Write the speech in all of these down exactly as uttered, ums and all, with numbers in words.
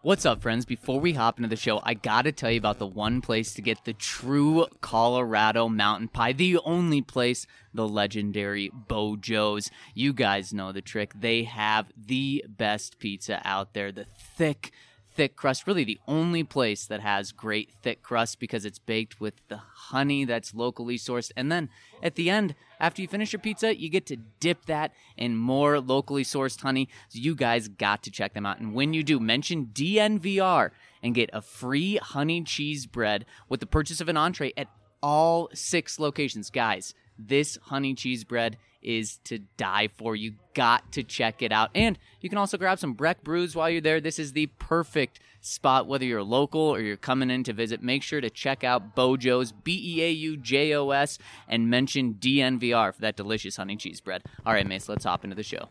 What's up, friends? Before we hop into the show, I gotta tell you about the one place to get the true Colorado mountain pie, the only place, the legendary Bojo's. You guys know the trick. They have the best pizza out there, the thick, thick crust. Really the only place that has great thick crust because it's baked with the honey that's locally sourced. And then at the end, after you finish your pizza, you get to dip that in more locally sourced honey. So you guys got to check them out. And when you do, mention D N V R and get a free honey cheese bread with the purchase of an entree at all six locations. Guys, this honey cheese bread is to die for. You got to check it out. And you can also grab some Breck brews while you're there. This is the perfect spot, whether you're local or you're coming in to visit. Make sure to check out Bojo's, B E A U J O S, and mention D N V R for that delicious honey cheese bread. All right, Mace, let's hop into the show.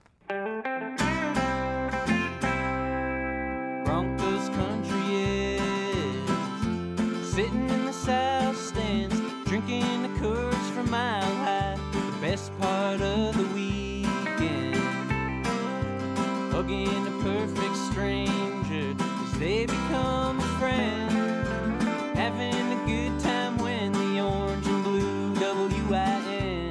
Broncos country is sitting in the south stands, drinking the Coors from Mile High. The best part of the weekend, hugging a perfect stranger as they become a friend, having a good time when the orange and blue W I N,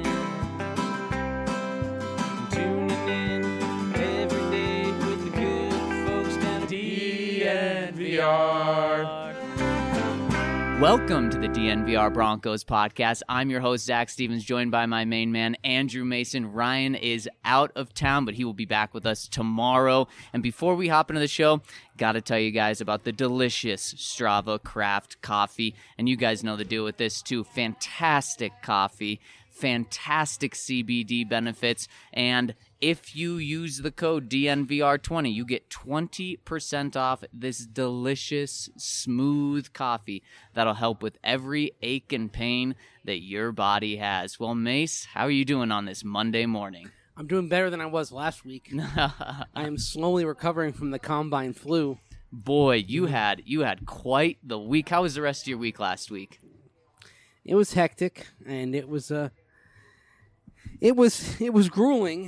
tuning in every day with the good folks down at D N V R. Welcome to the D N V R Broncos podcast. I'm your host, Zach Stevens, joined by my main man, Andrew Mason. Ryan is out of town, but he will be back with us tomorrow. And before we hop into the show, got to tell you guys about the delicious Strava Craft coffee. And you guys know the deal with this too. Fantastic coffee, fantastic C B D benefits, and if you use the code D N V R twenty, you get twenty percent off this delicious, smooth coffee that'll help with every ache and pain that your body has. Well, Mace, how are you doing on this Monday morning? I'm doing better than I was last week. I am slowly recovering from the combine flu. Boy, you had you had quite the week. How was the rest of your week last week? It was hectic, and it was uh, it was it was grueling.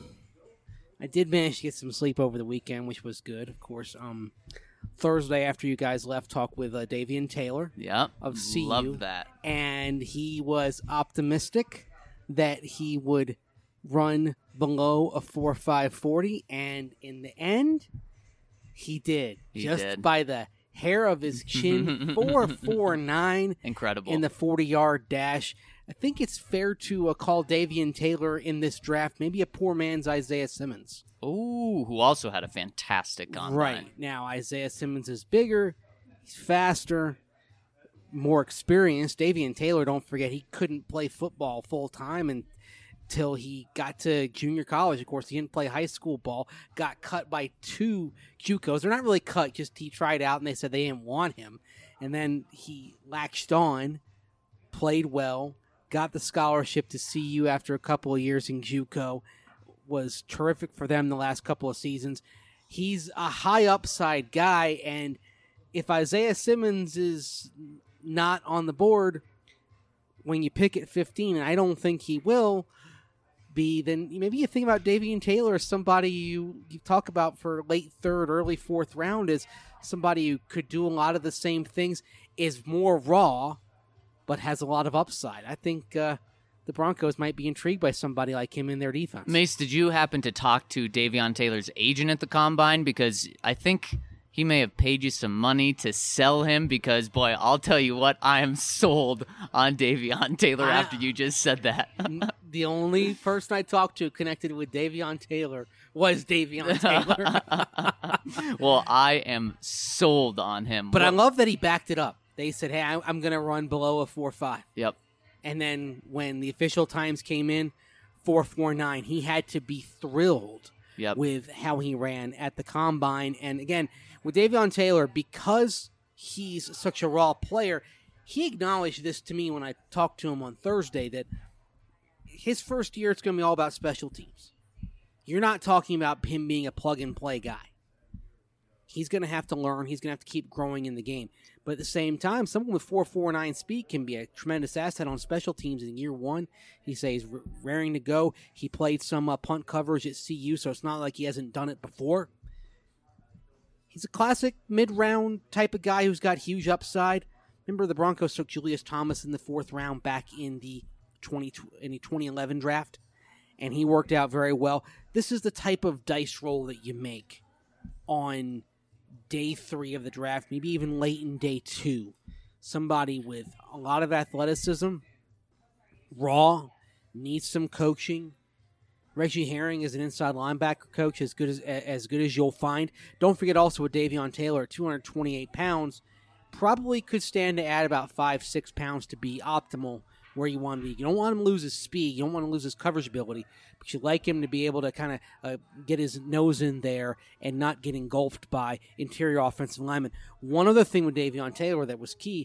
I did manage to get some sleep over the weekend, which was good. Of course, um, Thursday after you guys left, talk with uh, Davian Taylor. Yep, of C U. Love that. And he was optimistic that he would run below a four five forty, and in the end, he did. He just did. by the hair of his chin, four forty-nine. Incredible. In the forty-yard dash. I think it's fair to uh, call Davian Taylor in this draft maybe a poor man's Isaiah Simmons. Ooh, who also had a fantastic combine. Right. Now, Isaiah Simmons is bigger, he's faster, more experienced. Davian Taylor, don't forget, he couldn't play football full-time until he got to junior college. Of course, he didn't play high school ball, got cut by two JUCOs. They're not really cut, just he tried out and they said they didn't want him. And then he latched on, played well, got the scholarship to C U after a couple of years in JUCO, was terrific for them the last couple of seasons. He's a high upside guy, and if Isaiah Simmons is not on the board when you pick at fifteen, and I don't think he will be, then maybe you think about Davian Taylor as somebody you, you talk about for late third, early fourth round as somebody who could do a lot of the same things, is more raw, but has a lot of upside. I think uh, the Broncos might be intrigued by somebody like him in their defense. Mace, did you happen to talk to Davion Taylor's agent at the Combine? Because I think he may have paid you some money to sell him because, boy, I'll tell you what, I am sold on Davion Taylor I, after you just said that. The only person I talked to connected with Davion Taylor was Davion Taylor. Well, I am sold on him. But well, I love that he backed it up. They said, hey, I'm going to run below a four five. Yep. And then when the official times came in, four forty-nine, he had to be thrilled yep. with how he ran at the Combine. And again, with Davion Taylor, because he's such a raw player, he acknowledged this to me when I talked to him on Thursday, that his first year it's going to be all about special teams. You're not talking about him being a plug-and-play guy. He's going to have to learn. He's going to have to keep growing in the game. But at the same time, someone with four forty-nine speed can be a tremendous asset on special teams in year one. He says he's raring to go. He played some uh, punt coverage at C U, so it's not like he hasn't done it before. he's a classic mid-round type of guy who's got huge upside. Remember, the Broncos took Julius Thomas in the fourth round back in the twenty in the twenty eleven draft, and he worked out very well. This is the type of dice roll that you make on day three of the draft, maybe even late in day two. Somebody with a lot of athleticism, raw, needs some coaching. Reggie Herring is an inside linebacker coach, as good as as good as you'll find. Don't forget also with Davion Taylor, two hundred twenty-eight pounds, probably could stand to add about five, six pounds to be optimal where you want to be. You don't want him to lose his speed. You don't want to lose his coverage ability, but you like him to be able to kind of uh, get his nose in there and not get engulfed by interior offensive linemen. One other thing with Davion Taylor that was key,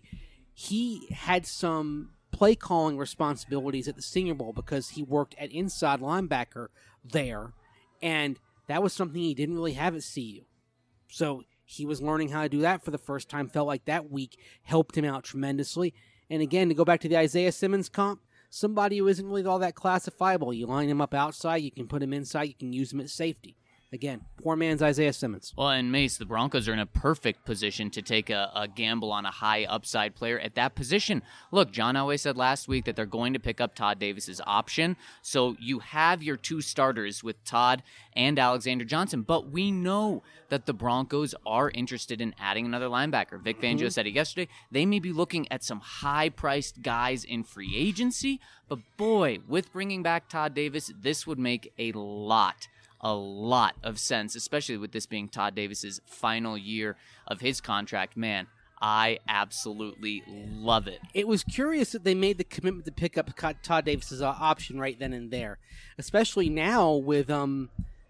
he had some play calling responsibilities at the Senior Bowl because he worked at inside linebacker there, and that was something he didn't really have at C U. So he was learning how to do that for the first time. Felt like that week helped him out tremendously. And again, to go back to the Isaiah Simmons comp, somebody who isn't really all that classifiable. You line him up outside, you can put him inside, you can use him at safety. Again, poor man's Isaiah Simmons. Well, and Mace, the Broncos are in a perfect position to take a, a gamble on a high upside player at that position. Look, John Elway said last week that they're going to pick up Todd Davis's option. So you have your two starters with Todd and Alexander Johnson. But we know that the Broncos are interested in adding another linebacker. Vic Fangio mm-hmm. said it yesterday. They may be looking at some high-priced guys in free agency. But boy, with bringing back Todd Davis, this would make a lot A lot of sense, especially with this being Todd Davis's final year of his contract. Man, I absolutely love it. It was curious that they made the commitment to pick up Todd Davis's option right then and there, especially now with um,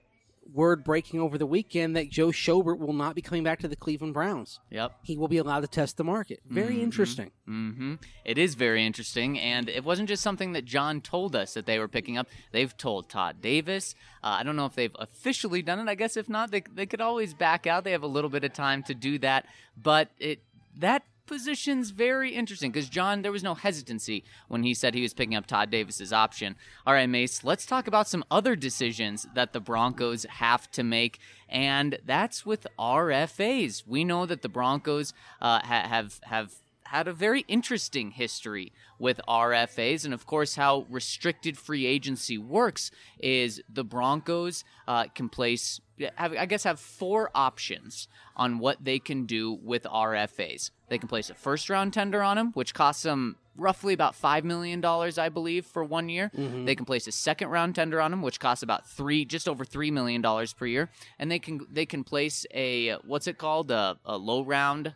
word breaking over the weekend that Joe Schobert will not be coming back to the Cleveland Browns. Yep. He will be allowed to test the market. Very mm-hmm. interesting. Mm-hmm. It is very interesting, and it wasn't just something that John told us that they were picking up. They've told Todd Davis. Uh, I don't know if they've officially done it. I guess if not, they they could always back out. They have a little bit of time to do that, but it that position's very interesting because, John, there was no hesitancy when he said he was picking up Todd Davis's option. All right, Mace, let's talk about some other decisions that the Broncos have to make, and that's with R F As. We know that the Broncos uh, ha- have have had a very interesting history with R F As, and of course how restricted free agency works is the Broncos uh, can place, have, I guess, have four options on what they can do with R F As. They can place a first-round tender on them, which costs them roughly about five million dollars, I believe, for one year. Mm-hmm. They can place a second-round tender on them, which costs about three, just over three million dollars per year. And they can they can place a, what's it called, a, a low-round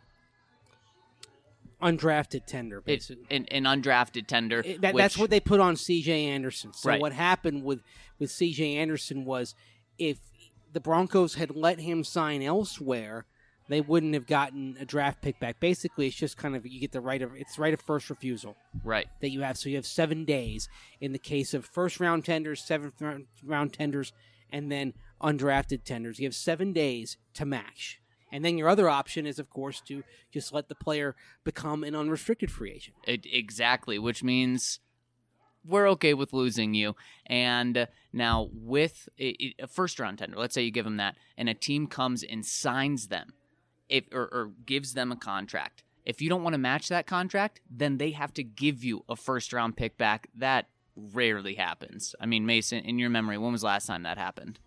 undrafted tender, basically. It, an, an undrafted tender. It, that, which, that's what they put on C J Anderson. So right. what happened with, with C J Anderson was if the Broncos had let him sign elsewhere, they wouldn't have gotten a draft pick back. Basically, it's just kind of, you get the right of, it's right of first refusal. Right. That you have. So you have seven days in the case of first-round tenders, seventh-round tenders, and then undrafted tenders. You have seven days to match. And then your other option is, of course, to just let the player become an unrestricted free agent. It, exactly, which means we're okay with losing you. And now with a, a first-round tender, let's say you give them that, and a team comes and signs them if, or, or gives them a contract. If you don't want to match that contract, then they have to give you a first-round pick back. That rarely happens. I mean, Mason, in your memory, when was the last time that happened?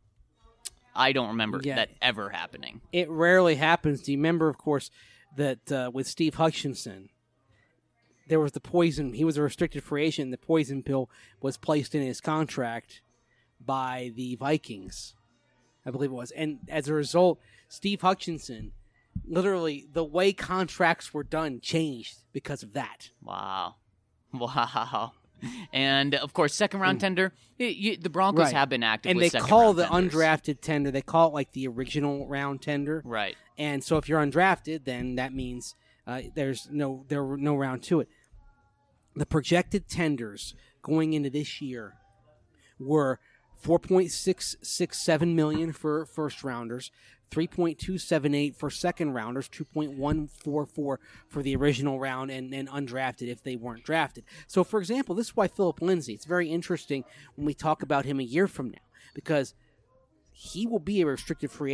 I don't remember yeah, that ever happening. It rarely happens. Do you remember, of course, that uh, with Steve Hutchinson, there was the poison. He was a restricted free agent. The poison pill was placed in his contract by the Vikings, I believe it was. And as a result, Steve Hutchinson, literally, the way contracts were done changed because of that. Wow. Wow. And, of course, second-round tender, you, you, the Broncos right. have been active and with they call the tenders. Undrafted tender, they call it like the original round tender. Right. And so if you're undrafted, then that means uh, there's no there were no round to it. The projected tenders going into this year were four point six six seven million dollars for first-rounders, three point two seven eight for second-rounders, two point one four four for the original round, and then undrafted if they weren't drafted. So, for example, this is why Philip Lindsay, it's very interesting when we talk about him a year from now, because he will be a restricted free agent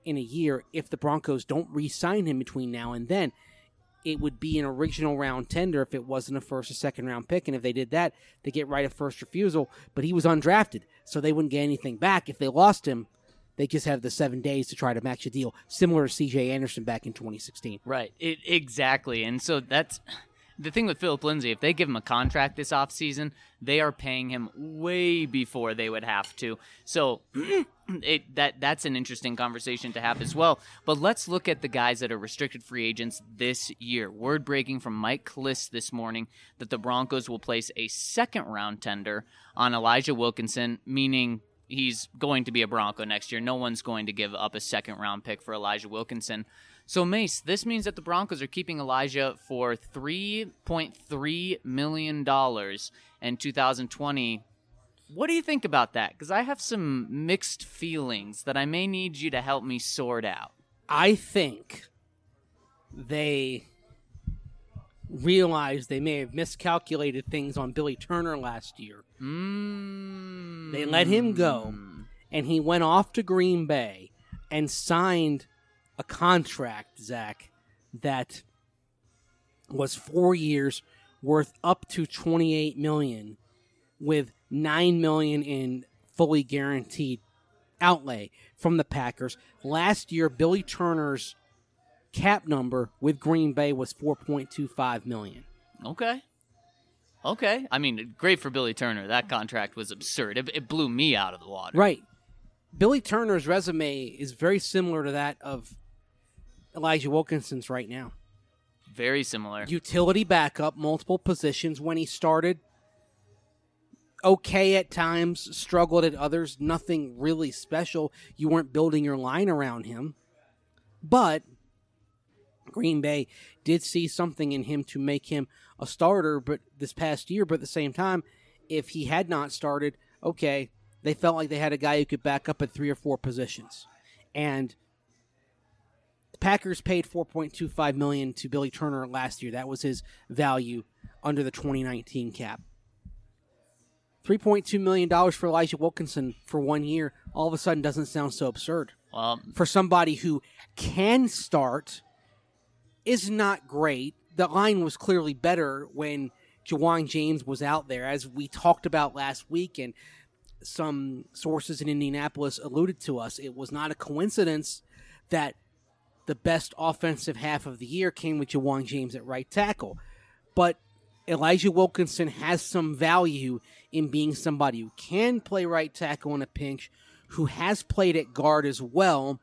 in a year if the Broncos don't re-sign him between now and then. It would be an original round tender if it wasn't a first or second round pick. And if they did that, they get right of first refusal. But he was undrafted, so they wouldn't get anything back. If they lost him, they just have the seven days to try to match a deal, similar to C J Anderson back in twenty sixteen. Right, it, exactly. And so that's the thing with Philip Lindsay. If they give him a contract this offseason, they are paying him way before they would have to. So it, that that's an interesting conversation to have as well. But let's look at the guys that are restricted free agents this year. Word breaking from Mike Klis this morning that the Broncos will place a second-round tender on Elijah Wilkinson, meaning he's going to be a Bronco next year. No one's going to give up a second-round pick for Elijah Wilkinson. So, Mace, this means that the Broncos are keeping Elijah for three point three million dollars in two thousand twenty. What do you think about that? Because I have some mixed feelings that I may need you to help me sort out. I think they realized they may have miscalculated things on Billy Turner last year. Mm. They let him go, and he went off to Green Bay and signed a contract, Zach, that was four years worth up to twenty-eight million dollars with nine million dollars in fully guaranteed outlay from the Packers. Last year, Billy Turner's cap number with Green Bay was four point two five million dollars. Okay. Okay. I mean, great for Billy Turner. That contract was absurd. It, it blew me out of the water. Right. Billy Turner's resume is very similar to that of Elijah Wilkinson's right now. Very similar. Utility backup, multiple positions when he started. Okay at times, struggled at others. Nothing really special. You weren't building your line around him. But Green Bay did see something in him to make him a starter but this past year. But at the same time, if he had not started, okay, they felt like they had a guy who could back up at three or four positions. And the Packers paid four point two five million dollars to Billy Turner last year. That was his value under the twenty nineteen cap. three point two million dollars for Elijah Wilkinson for one year all of a sudden doesn't sound so absurd. Well, for somebody who can start, is not great. The line was clearly better when Ja'Wuan James was out there, as we talked about last week, and some sources in Indianapolis alluded to us. It was not a coincidence that the best offensive half of the year came with Ja'Wuan James at right tackle. But Elijah Wilkinson has some value in being somebody who can play right tackle in a pinch, who has played at guard as well.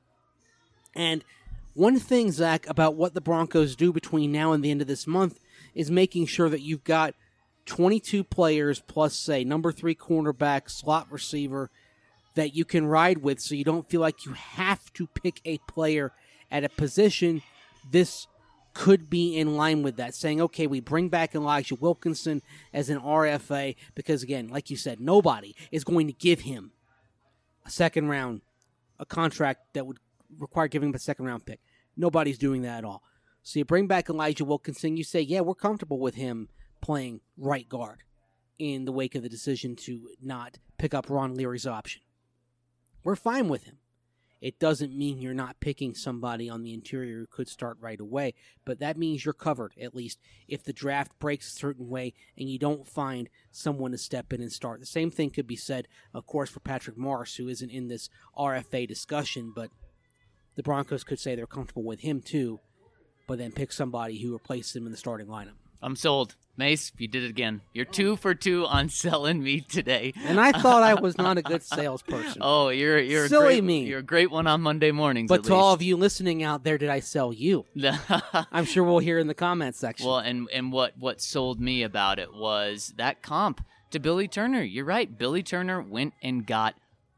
And one thing, Zach, about what the Broncos do between now and the end of this month is making sure that you've got twenty-two players plus, say, number three cornerback, slot receiver that you can ride with so you don't feel like you have to pick a player at a position. This could be in line with that, saying, okay, we bring back Elijah Wilkinson as an R F A because, again, like you said, nobody is going to give him a second round, a contract that would require giving him a second round pick. Nobody's doing that at all. So you bring back Elijah Wilkinson, you say, yeah, we're comfortable with him playing right guard in the wake of the decision to not pick up Ron Leary's option. We're fine with him. It doesn't mean you're not picking somebody on the interior who could start right away, but that means you're covered, at least, if the draft breaks a certain way and you don't find someone to step in and start. The same thing could be said, of course, for Patrick Morris, who isn't in this R F A discussion, but the Broncos could say they're comfortable with him too, but then pick somebody who replaces him in the starting lineup. I'm sold. Mace, you did it again. You're two for two on selling me today. And I thought I was not a good salesperson. Oh, you're you're Silly a great, me. You're a great one on Monday mornings. But at to all of you listening out there, did I sell you? least. I'm sure we'll hear in the comments section. Well, and and what what sold me about it was that comp to Billy Turner. You're right. Billy Turner went and got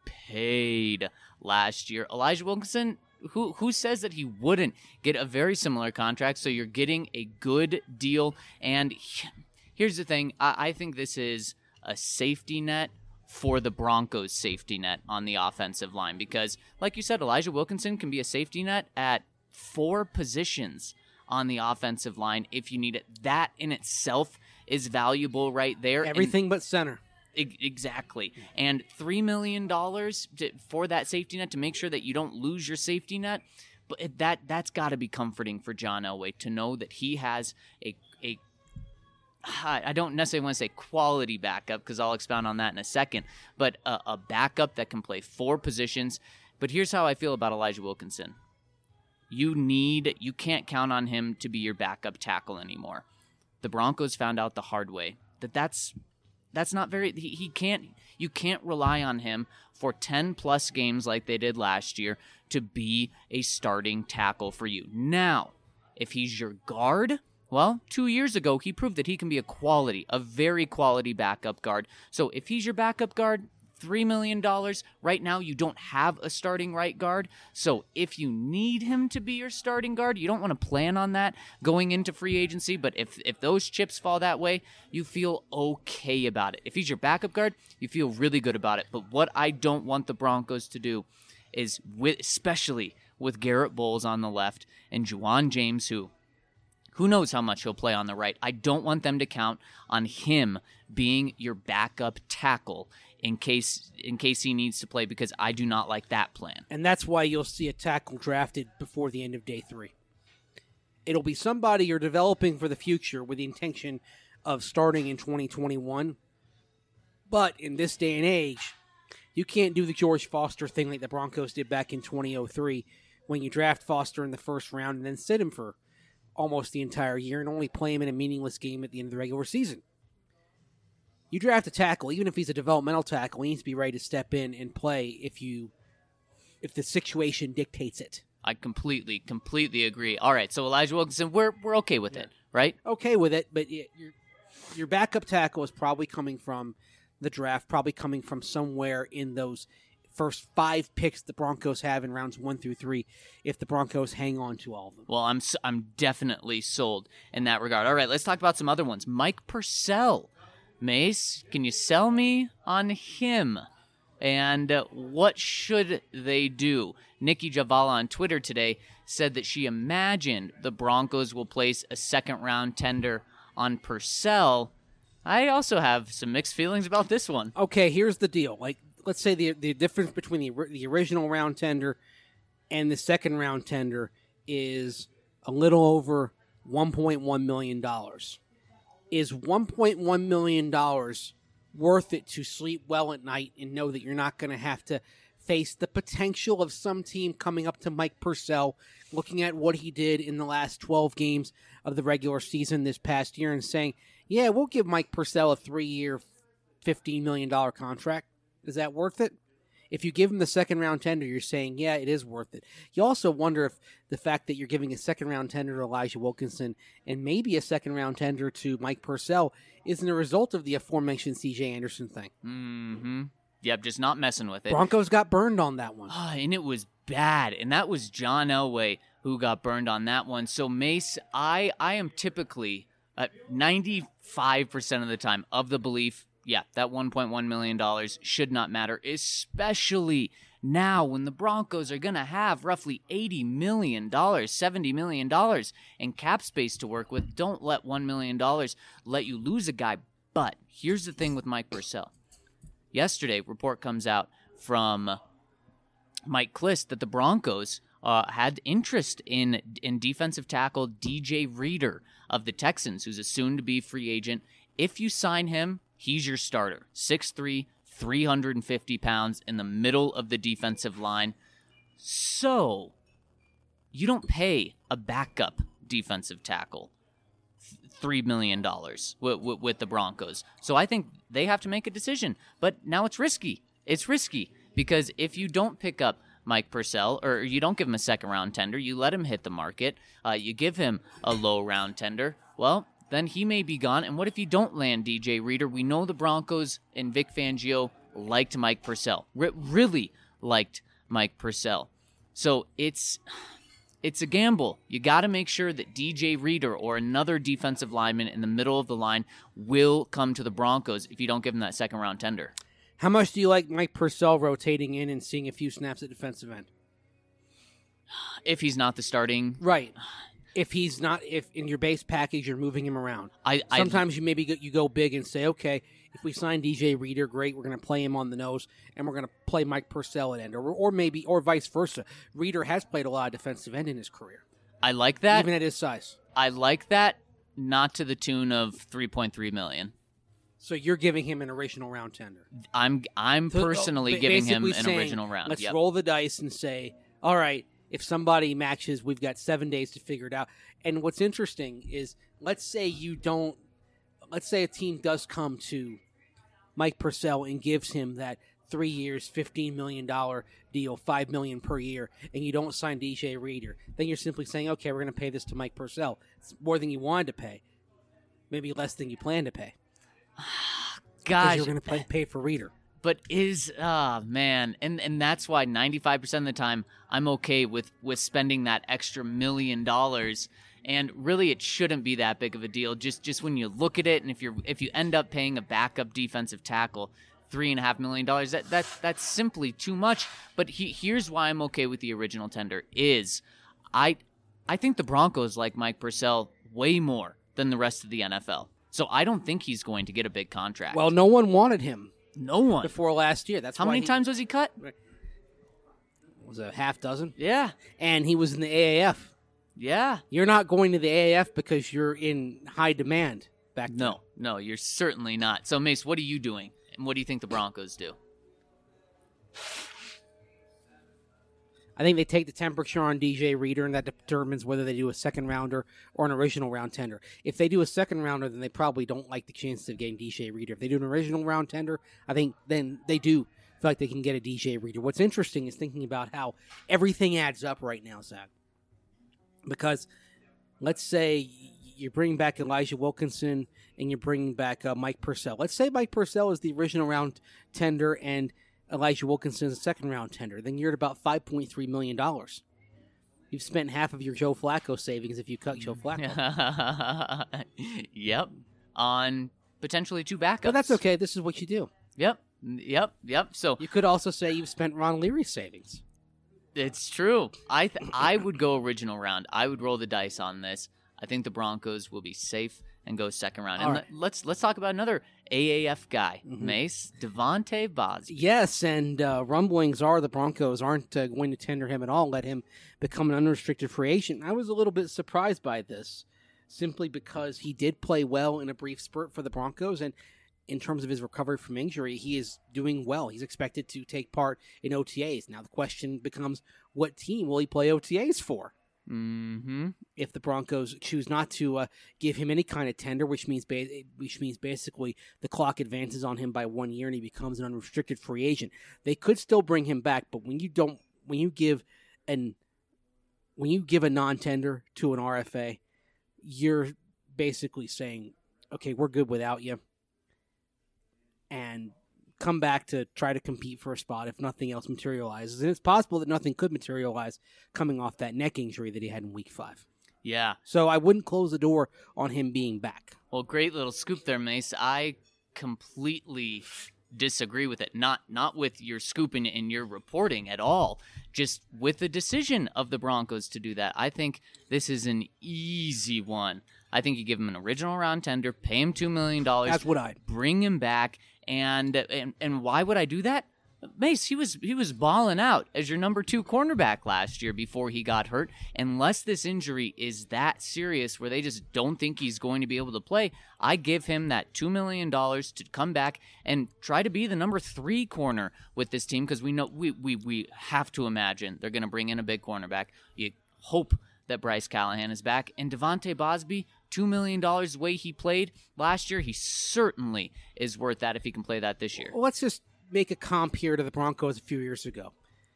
paid last year. Elijah Wilkinson, who who says that he wouldn't get a very similar contract? So you're getting a good deal. And here's the thing. I, I think this is a safety net for the Broncos' safety net on the offensive line. Because, like you said, Elijah Wilkinson can be a safety net at four positions on the offensive line if you need it. That in itself is valuable right there. Everything and, but center. E- exactly. And three million dollars to, for that safety net to make sure that you don't lose your safety net, but it, that, that's got to be comforting for John Elway to know that he has a, a I don't necessarily want to say quality backup because I'll expound on that in a second, but a, a backup that can play four positions. But here's how I feel about Elijah Wilkinson. You need, you can't count on him to be your backup tackle anymore. The Broncos found out the hard way that that's that's not very. He, he can't. You can't rely on him for ten plus games like they did last year to be a starting tackle for you. Now, if he's your guard, well, two years ago he proved that he can be a quality, a very quality backup guard. So if he's your backup guard, three million dollars. Right now, you don't have a starting right guard. So if you need him to be your starting guard, you don't want to plan on that going into free agency. But if, if those chips fall that way, you feel okay about it. If he's your backup guard, you feel really good about it. But what I don't want the Broncos to do is, with, especially with Garrett Bowles on the left and Juwan James, who who knows how much he'll play on the right. I don't want them to count on him being your backup tackle in case in case he needs to play, because I do not like that plan. And that's why you'll see a tackle drafted before the end of day three. It'll be somebody you're developing for the future with the intention of starting in twenty twenty-one. But in this day and age, you can't do the George Foster thing like the Broncos did back in twenty oh three when you draft Foster in the first round and then sit him for almost the entire year and only play him in a meaningless game at the end of the regular season. You draft a tackle, even if he's a developmental tackle, he needs to be ready to step in and play if you, if the situation dictates it. I completely, completely agree. All right, so Elijah Wilkinson, we're we're okay with yeah. it, right? Okay with it, but your your backup tackle is probably coming from the draft, probably coming from somewhere in those first five picks the Broncos have in rounds one through three, if the Broncos hang on to all of them. Well, I'm I'm definitely sold in that regard. All right, let's talk about some other ones. Mike Purcell. Mace, can you sell me on him? And uh, what should they do? Nikki Javala on Twitter today said that she imagined the Broncos will place a second-round tender on Purcell. I also have some mixed feelings about this one. Okay, here's the deal. Like, let's say the the difference between the the original round tender and the second round tender is a little over one point one million dollars. Is one point one million dollars worth it to sleep well at night and know that you're not going to have to face the potential of some team coming up to Mike Purcell, looking at what he did in the last twelve games of the regular season this past year and saying, yeah, we'll give Mike Purcell a three-year, fifteen million dollars contract. Is that worth it? If you give him the second round tender, you're saying, yeah, it is worth it. You also wonder if the fact that you're giving a second round tender to Elijah Wilkinson and maybe a second round tender to Mike Purcell isn't a result of the aforementioned C J Anderson thing. Mm-hmm. Yep, just not messing with it. Broncos got burned on that one. Oh, and it was bad. And that was John Elway who got burned on that one. So, Mace, I, I am typically at ninety-five percent of the time of the belief, yeah, that one point one million dollars should not matter, especially now when the Broncos are going to have roughly eighty million dollars, seventy million dollars in cap space to work with. Don't let one million dollars let you lose a guy. But here's the thing with Mike Purcell. Yesterday, report comes out from Mike Klis that the Broncos uh, had interest in, in defensive tackle D J Reader of the Texans, who's a soon-to-be free agent. If you sign him, he's your starter. six three, three hundred fifty pounds in the middle of the defensive line. So, you don't pay a backup defensive tackle three million dollars with, with, with the Broncos. So I think they have to make a decision. But now it's risky. It's risky because if you don't pick up Mike Purcell, or you don't give him a second-round tender, you let him hit the market, uh, you give him a low-round tender, well, then he may be gone. And what if you don't land D J Reader? We know the Broncos and Vic Fangio liked Mike Purcell, R- really liked Mike Purcell. So it's it's a gamble. You got to make sure that D J Reader or another defensive lineman in the middle of the line will come to the Broncos if you don't give him that second-round tender. How much do you like Mike Purcell rotating in and seeing a few snaps at defensive end? If he's not the starting... Right. If he's not, if in your base package you're moving him around, I, I sometimes you maybe go, you go big and say, okay, if we sign D J Reader, great, we're going to play him on the nose, and we're going to play Mike Purcell at end, or or maybe or vice versa. Reader has played a lot of defensive end in his career, I like that. even at his size. I like that. Not to the tune of three point three million. So you're giving him an original round tender. I'm I'm So, personally ba- giving him basically an saying, original round. Let's Yep. roll the dice and say, all right, if somebody matches, we've got seven days to figure it out. And what's interesting is, let's say you don't, let's say a team does come to Mike Purcell and gives him that three years, fifteen million dollars deal, five million dollars per year, and you don't sign D J Reader. Then you're simply saying, okay, we're going to pay this to Mike Purcell. It's more than you wanted to pay, maybe less than you planned to pay. Because Gosh, you're going to pay, pay for Reader. but is ah man, and and that's why ninety-five percent of the time I'm okay with with spending that extra million dollars. And really, it shouldn't be that big of a deal. Just just when you look at it, and if you're if you end up paying a backup defensive tackle three and a half million dollars, that that that's simply too much. But he, here's why I'm okay with the original tender: is I I think the Broncos like Mike Purcell way more than the rest of the N F L. So I don't think he's going to get a big contract. Well, no one wanted him no one. before last year. That's How why many he- times was he cut? Was it a half dozen? Yeah, And he was in the A A F. yeah. You're not going to the A A F because you're in high demand back then. No, no, you're certainly not. So Mace, what are you doing? And what do you think the Broncos do? I think they take the temperature on D J Reader, and that determines whether they do a second rounder or an original round tender. If they do a second rounder, then they probably don't like the chances of getting D J Reader. If they do an original round tender, I think then they do feel like they can get a D J Reader. What's interesting is thinking about how everything adds up right now, Zach. Because let's say you're bringing back Elijah Wilkinson and you're bringing back uh, Mike Purcell. Let's say Mike Purcell is the original round tender and Elijah Wilkinson is a second round tender. Then you're at about five point three million dollars. You've spent half of your Joe Flacco savings if you cut Joe Flacco. Yep. On potentially two backups. But that's okay. This is what you do. Yep. Yep. Yep. So You could also say you've spent Ron Leary's savings. it's true. I th- I would go original round. I would roll the dice on this. I think the Broncos will be safe and go second round. All And right. let- let's let's talk about another A A F guy, Mhm. Mace Devontae Bosby. Yes, and uh, rumblings are the Broncos aren't uh, going to tender him at all, let him become an unrestricted free agent. I was a little bit surprised by this, simply because he did play well in a brief spurt for the Broncos, and in terms of his recovery from injury, he is doing well. He's expected to take part in O T As. Now the question becomes, what team will he play O T As for? Mm-hmm. If the Broncos choose not to uh, give him any kind of tender, which means ba- which means basically the clock advances on him by one year and he becomes an unrestricted free agent, they could still bring him back. But when you don't, when you give an when you give a non-tender to an R F A, you're basically saying, okay, we're good without you, and come back to try to compete for a spot if nothing else materializes. And it's possible that nothing could materialize coming off that neck injury that he had in week five. Yeah. So I wouldn't close the door on him being back. Well, great little scoop there, Mace. I completely disagree with it. Not not with your scooping and your reporting at all. Just with the decision of the Broncos to do that. I think this is an easy one. I think you give him an original round tender, pay him two million dollars. That's what I'd. Bring him back. And, and and why would I do that? Mace, he was he was balling out as your number two cornerback last year before he got hurt. Unless this injury is that serious where they just don't think he's going to be able to play, I give him that two million dollars to come back and try to be the number three corner with this team, because we know we, we, we have to imagine they're going to bring in a big cornerback. You hope that Bryce Callahan is back. And Devontae Bosby, two million dollars the way he played last year, he certainly is worth that if he can play that this year. Well, let's just make a comp here to the Broncos a few years ago.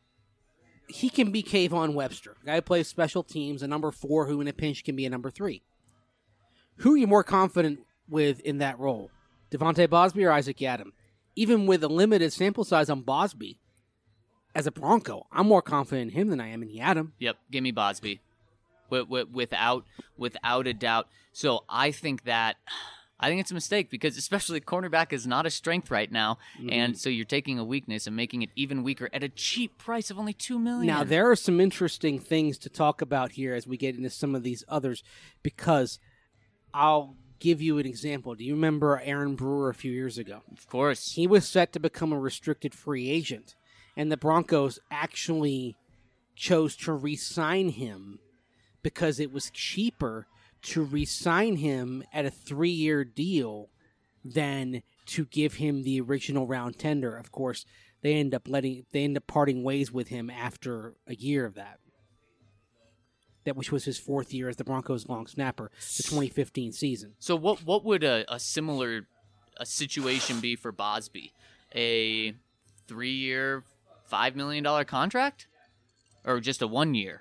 He can be Kayvon Webster, a guy who plays special teams, a number four who in a pinch can be a number three. Who are you more confident with in that role, Devontae Bosby or Isaac Yiadom? Even with a limited sample size on Bosby, as a Bronco, I'm more confident in him than I am in Yiadom. Yep, give me Bosby. Without without a doubt. So I think that I think it's a mistake because especially cornerback is not a strength right now, Mhm. and so you're taking a weakness and making it even weaker at a cheap price of only two million dollars. Now, there are some interesting things to talk about here as we get into some of these others, because I'll give you an example. Do you remember Aaron Brewer a few years ago? Of course. He was set to become a restricted free agent, and the Broncos actually chose to re-sign him because it was cheaper to re-sign him at a three-year deal than to give him the original round tender. Of course, they end up letting they end up parting ways with him after a year of that. That which was his fourth year as the Broncos long snapper, the twenty fifteen season. So what what would a, a similar a situation be for Bosby? A three-year, five million dollars contract? Or just a one-year?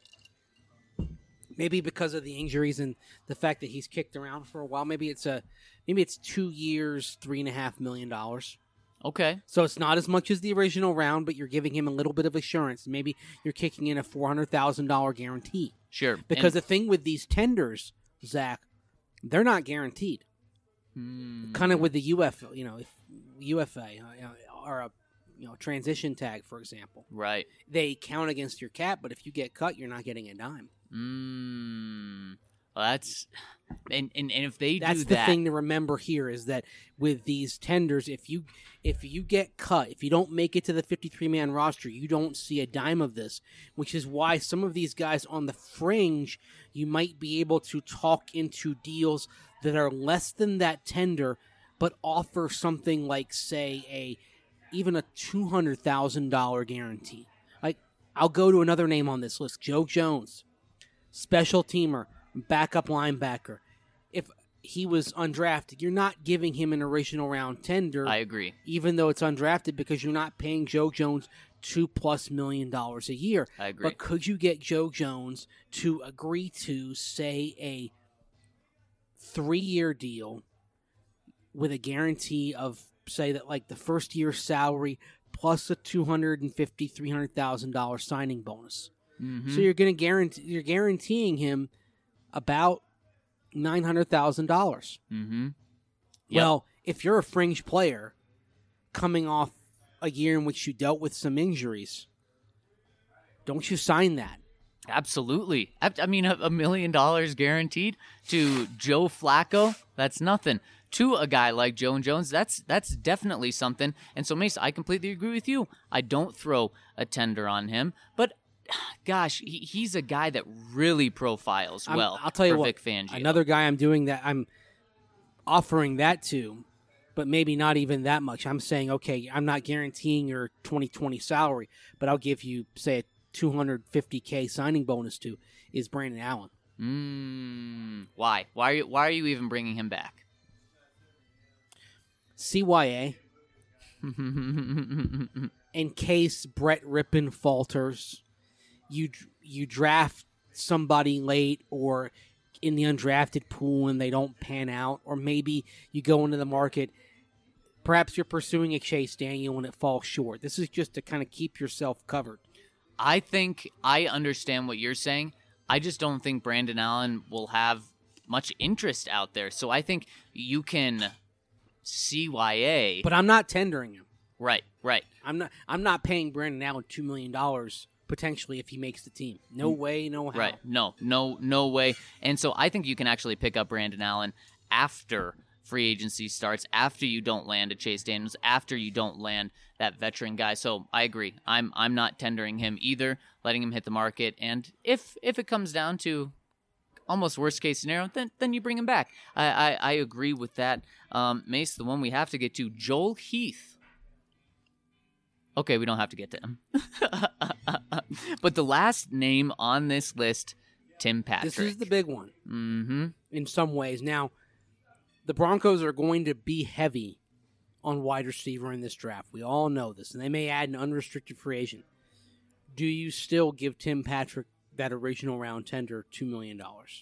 Maybe because of the injuries and the fact that he's kicked around for a while. Maybe it's a maybe it's two years, three and a half million dollars. Okay. So it's not as much as the original round, but you're giving him a little bit of assurance. Maybe you're kicking in a four hundred thousand dollars guarantee. Sure. Because And- the thing with these tenders, Zach, they're not guaranteed. Hmm. Kind of with the U F, you know, if U F A uh, or a you know transition tag, for example, Right. they count against your cap. But if you get cut, you're not getting a dime. Mm. Well, that's and, and and if they That's do the that, thing to remember here is that with these tenders, if you if you get cut, if you don't make it to the fifty-three man roster, you don't see a dime of this, which is why some of these guys on the fringe, you might be able to talk into deals that are less than that tender, but offer something like, say, a even a two hundred thousand dollars guarantee. Like, I'll go to another name on this list, Joe Jones, special teamer, backup linebacker. If he was undrafted, you're not giving him an original round tender, I agree. even though it's undrafted, because you're not paying Joe Jones two plus million dollars a year. I agree. But could you get Joe Jones to agree to, say, a three-year deal with a guarantee of, say, that like the first year salary plus a two hundred fifty thousand dollars, three hundred thousand dollars signing bonus? Mhm. So you're going to guarantee you're guaranteeing him about nine hundred thousand dollars. Mm-hmm. Yep. Well, if you're a fringe player coming off a year in which you dealt with some injuries, don't you sign that? Absolutely. I, I mean, a, a million dollars guaranteed to Joe Flacco, that's nothing. To a guy like Joe Jones, that's that's definitely something. And so, Mace, I completely agree with you. I don't throw a tender on him, but gosh, he, he's a guy that really profiles I'm- well. I'll tell you for what, Vic Fangio. another guy I'm doing that, I'm offering that to, but maybe not even that much. I'm saying, okay, I'm not guaranteeing your twenty twenty salary, but I'll give you, say, a two hundred fifty thousand signing bonus to, is Brandon Allen. Mm, why? Why are you? Why are you even bringing him back? C Y A, in case Brett Rippon falters, you you draft somebody late or in the undrafted pool and they don't pan out, or maybe you go into the market, perhaps you're pursuing a Chase Daniel and it falls short. This is just to kind of keep yourself covered. I think I understand what you're saying. I just don't think Brandon Allen will have much interest out there. So I think you can C Y A. But I'm not tendering him. Right, right. I'm not I'm not paying Brandon Allen two million dollars potentially if he makes the team. No way, no how. Right. No, no, no way. And so I think you can actually pick up Brandon Allen after free agency starts, after you don't land a Chase Daniels, after you don't land that veteran guy. So I agree. I'm I'm not tendering him either, letting him hit the market. And if if it comes down to almost worst case scenario, then then you bring him back. I I, I agree with that. Um, Mace, the one we have to get to, Joel Heath. Okay, we don't have to get to him. But the last name on this list, Tim Patrick. This is the big one Mm-hmm. in some ways. Now, the Broncos are going to be heavy on wide receiver in this draft. We all know this, and they may add an unrestricted free agent. Do you still give Tim Patrick that original round tender two million dollars?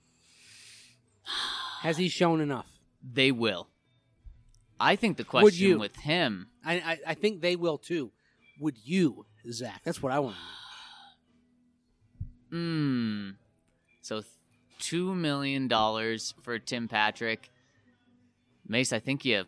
Has he shown enough? They will. I think the Would question you? with him, I, I, I think they will too. Would you, Zach? That's what I want to know. hmm. So two million dollars for Tim Patrick. Mace, I think you,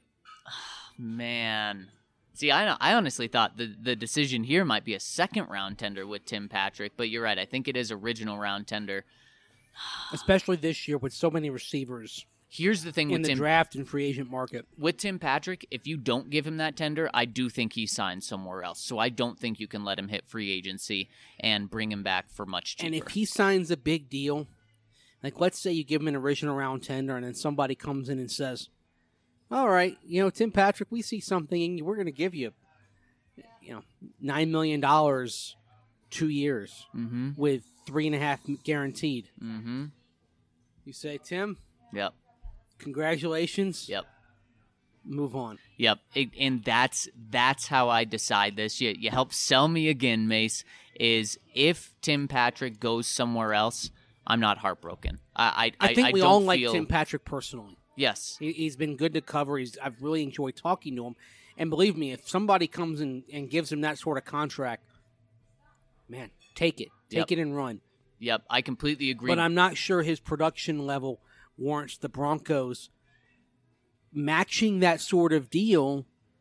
man. See, I I honestly thought the, the decision here might be a second round tender with Tim Patrick, but you're right. I think it is original round tender. Especially this year with so many receivers Here's the thing in with the Tim draft and free agent market. with Tim Patrick. If you don't give him that tender, I do think he signs somewhere else. So I don't think you can let him hit free agency and bring him back for much cheaper. And if he signs a big deal, like let's say you give him an original round tender and then somebody comes in and says, all right, you know, Tim Patrick, we see something and we're going to give you, you know, nine million dollars two years mm-hmm. with three and a half guaranteed. Mm-hmm. You say, Tim, Yep. congratulations. Yep. Move on. Yep, it, and that's that's how I decide this. You, you help sell me again, Mace, is if Tim Patrick goes somewhere else, I'm not heartbroken. I I, I think I, we I don't all like feel, Tim Patrick personally. Yes. He, he's been good to cover. He's I've really enjoyed talking to him. And believe me, if somebody comes in and gives him that sort of contract, man, take it. Take Yep. it and run. Yep, I completely agree. But I'm not sure his production level warrants the Broncos matching that sort of deal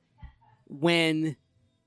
when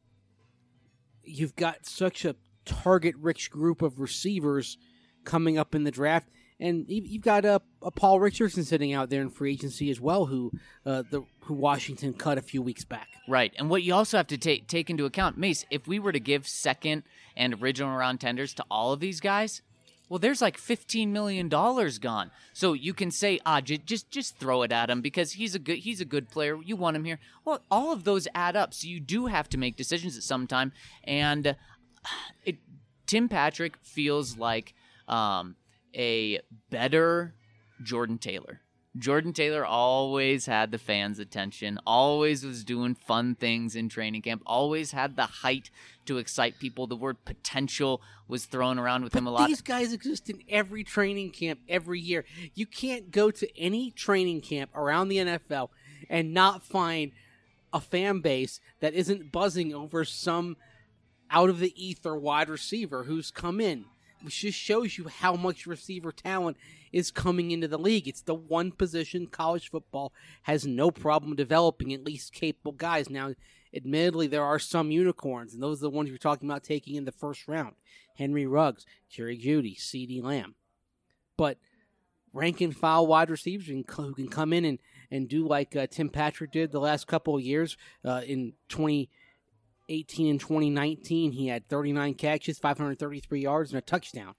you've got such a target-rich group of receivers coming up in the draft. And you've got a, a Paul Richardson sitting out there in free agency as well, who uh, the who Washington cut a few weeks back. Right, and what you also have to take take into account, Mace, if we were to give second and original round tenders to all of these guys, well, there's like fifteen million dollars gone. So you can say, ah, j- just just throw it at him because he's a good he's a good player. You want him here. Well, all of those add up. So you do have to make decisions at some time. And it, Tim Patrick feels like um, a better Jordan Taylor. Jordan Taylor always had the fans' attention, always was doing fun things in training camp, always had the height to excite people. The word potential was thrown around with But him a lot. these guys exist in every training camp every year. You can't go to any training camp around the N F L and not find a fan base that isn't buzzing over some out-of-the-ether wide receiver who's come in. Which just shows you how much receiver talent is coming into the league. It's the one position college football has no problem developing at least capable guys. Now, admittedly, there are some unicorns, and those are the ones you're talking about taking in the first round. Henry Ruggs, Jerry Jeudy, CeeDee Lamb. But rank and file wide receivers who can come in and, and do like uh, Tim Patrick did the last couple of years uh, in twenty eighteen and twenty nineteen, he had thirty-nine catches, five hundred thirty-three yards, and a touchdown.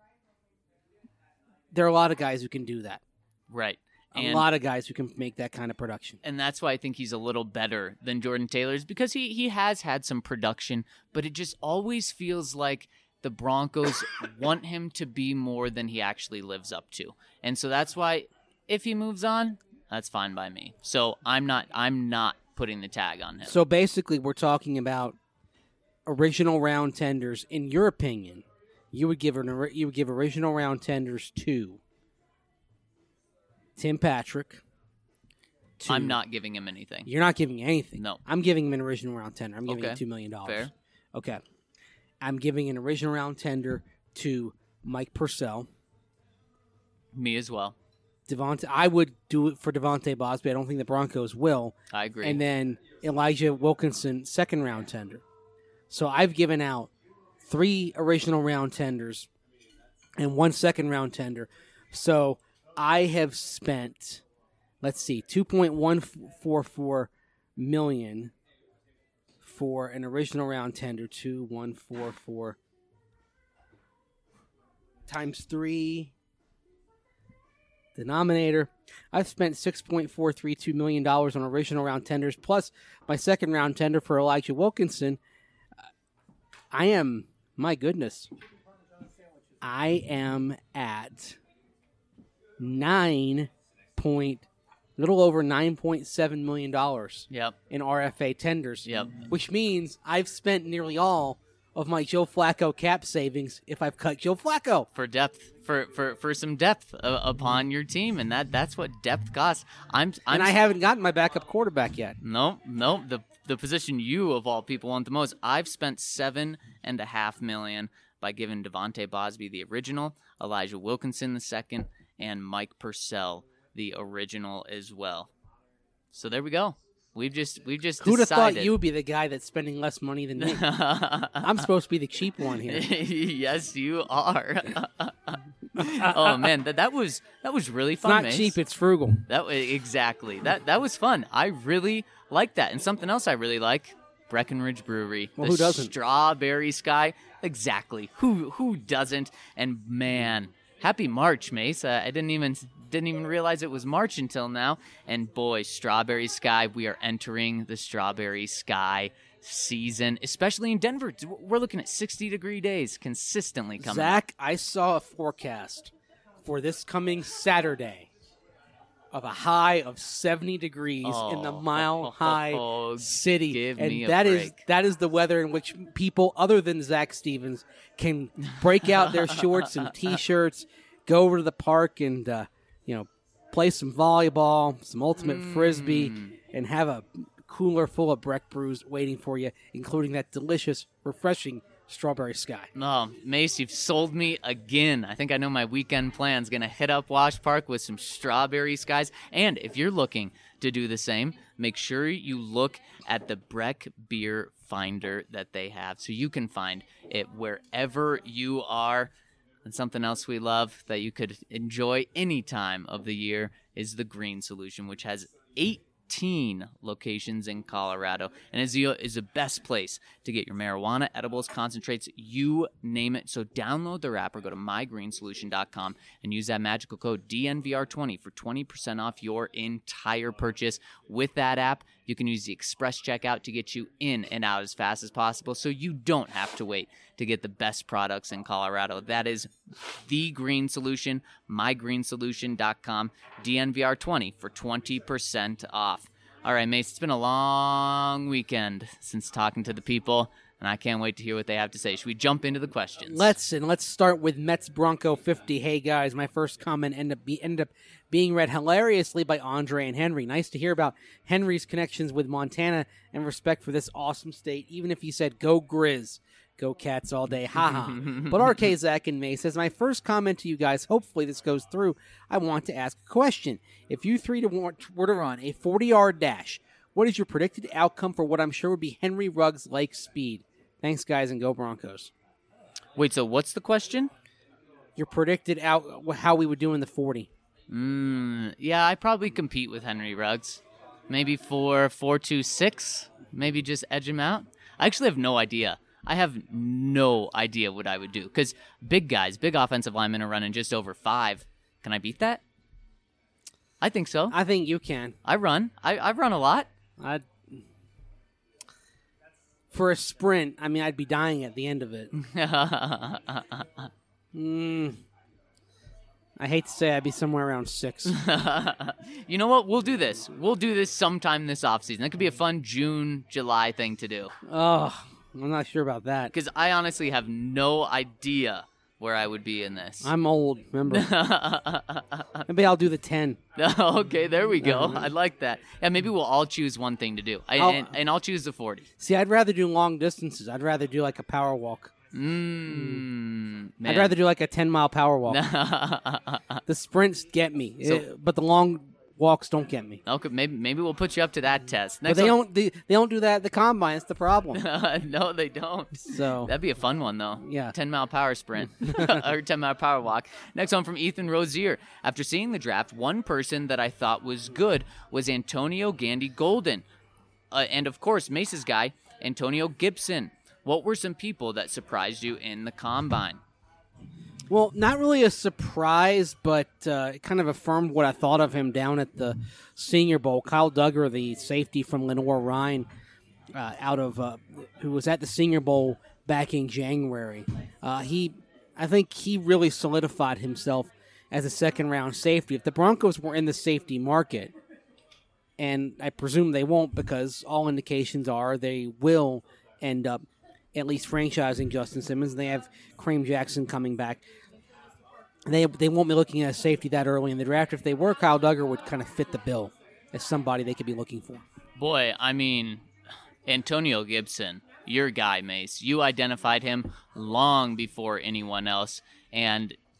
There are a lot of guys who can do that. Right. A And, lot of guys who can make that kind of production. and that's why I think he's a little better than Jordan Taylor's because he, he has had some production, but it just always feels like the Broncos want him to be more than he actually lives up to. And so that's why if he moves on, that's fine by me. So I'm not I'm not putting the tag on him. So basically, we're talking about original round tenders. In your opinion, you would give an ori- you would give original round tenders to Tim Patrick. to- I'm not giving him anything. You're not giving anything. No. I'm giving him an original round tender. I'm giving Okay. him two million dollars. Fair. Okay. I'm giving an original round tender to Mike Purcell. Me as well. Devontae, I would do it for Devontae Bosby. I don't think the Broncos will. I agree. And then Elijah Wilkinson, second round tender. So I've given out three original round tenders and one second round tender. So I have spent, let's see, two point one four four million dollars for an original round tender. two point one four four times three. Denominator. I've spent six point four three two million dollars on original round tenders, plus my second round tender for Elijah Wilkinson. I am, my goodness, I am at nine point, little over nine point seven million dollars Yep. in R F A tenders. Yep. Which means I've spent nearly all of my Joe Flacco cap savings if I've cut Joe Flacco. For depth, for for, for some depth uh, upon your team, and that that's what depth costs. I'm, I'm And I haven't gotten my backup quarterback yet. No, no. The the position you of all people want the most. I've spent seven and a half million by giving Devontae Bosby the original, Elijah Wilkinson the second, and Mike Purcell the original as well. So there we go. We've just we've just Who'd have decided. thought you would be the guy that's spending less money than me? I'm supposed to be the cheap one here. Yes, you are. Oh man, that that was that was really It's fun. not Mace. cheap, it's frugal. That wa- exactly. That that was fun. I really like that. And something else I really like, Breckenridge Brewery. Well, the who doesn't? Strawberry Sky. Exactly. Who who doesn't? And man, happy March, Mace. Uh, I didn't even didn't even realize it was March until now. And boy, Strawberry Sky, we are entering the Strawberry Sky season, especially in Denver. We're looking at sixty degree days consistently coming. Zach, I saw a forecast for this coming Saturday of a high of seventy degrees in the Oh, Mile High oh, City. give and me a that is break. that is the weather in which people other than Zach Stevens can break out their shorts and T-shirts, go over to the park and uh, you know play some volleyball, some ultimate frisbee, Mm. and have a cooler full of Breck brews waiting for you, including that delicious, refreshing Strawberry Sky. Oh, Mace, you've sold me again. I think I know my weekend plan's going to hit up Wash Park with some Strawberry Skies. And if you're looking to do the same, make sure you look at the Breck Beer Finder that they have so you can find it wherever you are. And something else we love that you could enjoy any time of the year is the Green Solution, which has eighteen locations in Colorado and is the, is the best place to get your marijuana, edibles, concentrates, you name it. So download their app or go to my green solution dot com and use that magical code D N V R twenty for twenty percent off your entire purchase. With that app, you can use the express checkout to get you in and out as fast as possible so you don't have to wait to get the best products in Colorado. That is The Green Solution, my green solution dot com, D N V R twenty for twenty percent off. All right, Mace, it's been a long weekend since talking to the people, and I can't wait to hear what they have to say. Should we jump into the questions? Let's and let's start with Mets Bronco fifty. Hey guys, my first comment ended up be, ended up being read hilariously by Andre and Henry. Nice to hear about Henry's connections with Montana and respect for this awesome state. Even if he said "Go Grizz," go Cats all day, haha. But R K Zach and May says my first comment to you guys. Hopefully this goes through. I want to ask a question. If you three to want, were to run a forty-yard dash, what is your predicted outcome for what I'm sure would be Henry Ruggs like speed? Thanks, guys, and go Broncos. Wait, so what's the question? Your predicted out how we would do in the forty. Mm, yeah, I probably compete with Henry Ruggs. Maybe for four two six. Maybe just edge him out. I actually have no idea. I have no idea what I would do. Because big guys, big offensive linemen are running just over five. Can I beat that? I think so. I think you can. I run. I, I run a lot. I'd, for a sprint, I mean, I'd be dying at the end of it. mm, I hate to say I'd be somewhere around six. You know what? We'll do this. We'll do this sometime this offseason. That could be a fun June, July thing to do. Oh, I'm not sure about that. Because I honestly have no idea where I would be in this. I'm old, remember? Maybe I'll do the ten. Okay, there we go. I like that. Yeah, maybe we'll all choose one thing to do. I, I'll- and, and I'll choose the forty. See, I'd rather do long distances. I'd rather do like a power walk. Mmm. I'd rather do like a ten-mile power walk. The sprints get me, So- eh, but the long walks don't get me. Okay, maybe maybe we'll put you up to that test. But Next they one- don't. They, they don't do that at the combine. It's the problem. No, they don't. So That'd be a fun one, though. Yeah. ten mile power sprint or ten mile power walk. Next one from Ethan Rozier. After seeing the draft, one person that I thought was good was Antonio Gandy Golden. Uh, and of course, Mace's guy, Antonio Gibson. What were some people that surprised you in the combine? Well, not really a surprise, but uh, it kind of affirmed what I thought of him down at the Senior Bowl. Kyle Duggar, the safety from Lenoir Rhine, uh, out of uh, who was at the Senior Bowl back in January. Uh, he, I think, he really solidified himself as a second-round safety. If the Broncos were in the safety market, and I presume they won't, because all indications are they will end up at least franchising Justin Simmons. They have Kareem Jackson coming back. They they won't be looking at a safety that early in the draft. If they were, Kyle Duggar would kind of fit the bill as somebody they could be looking for. Boy, I mean, Antonio Gibson, your guy, Mace. You identified him long before anyone else. And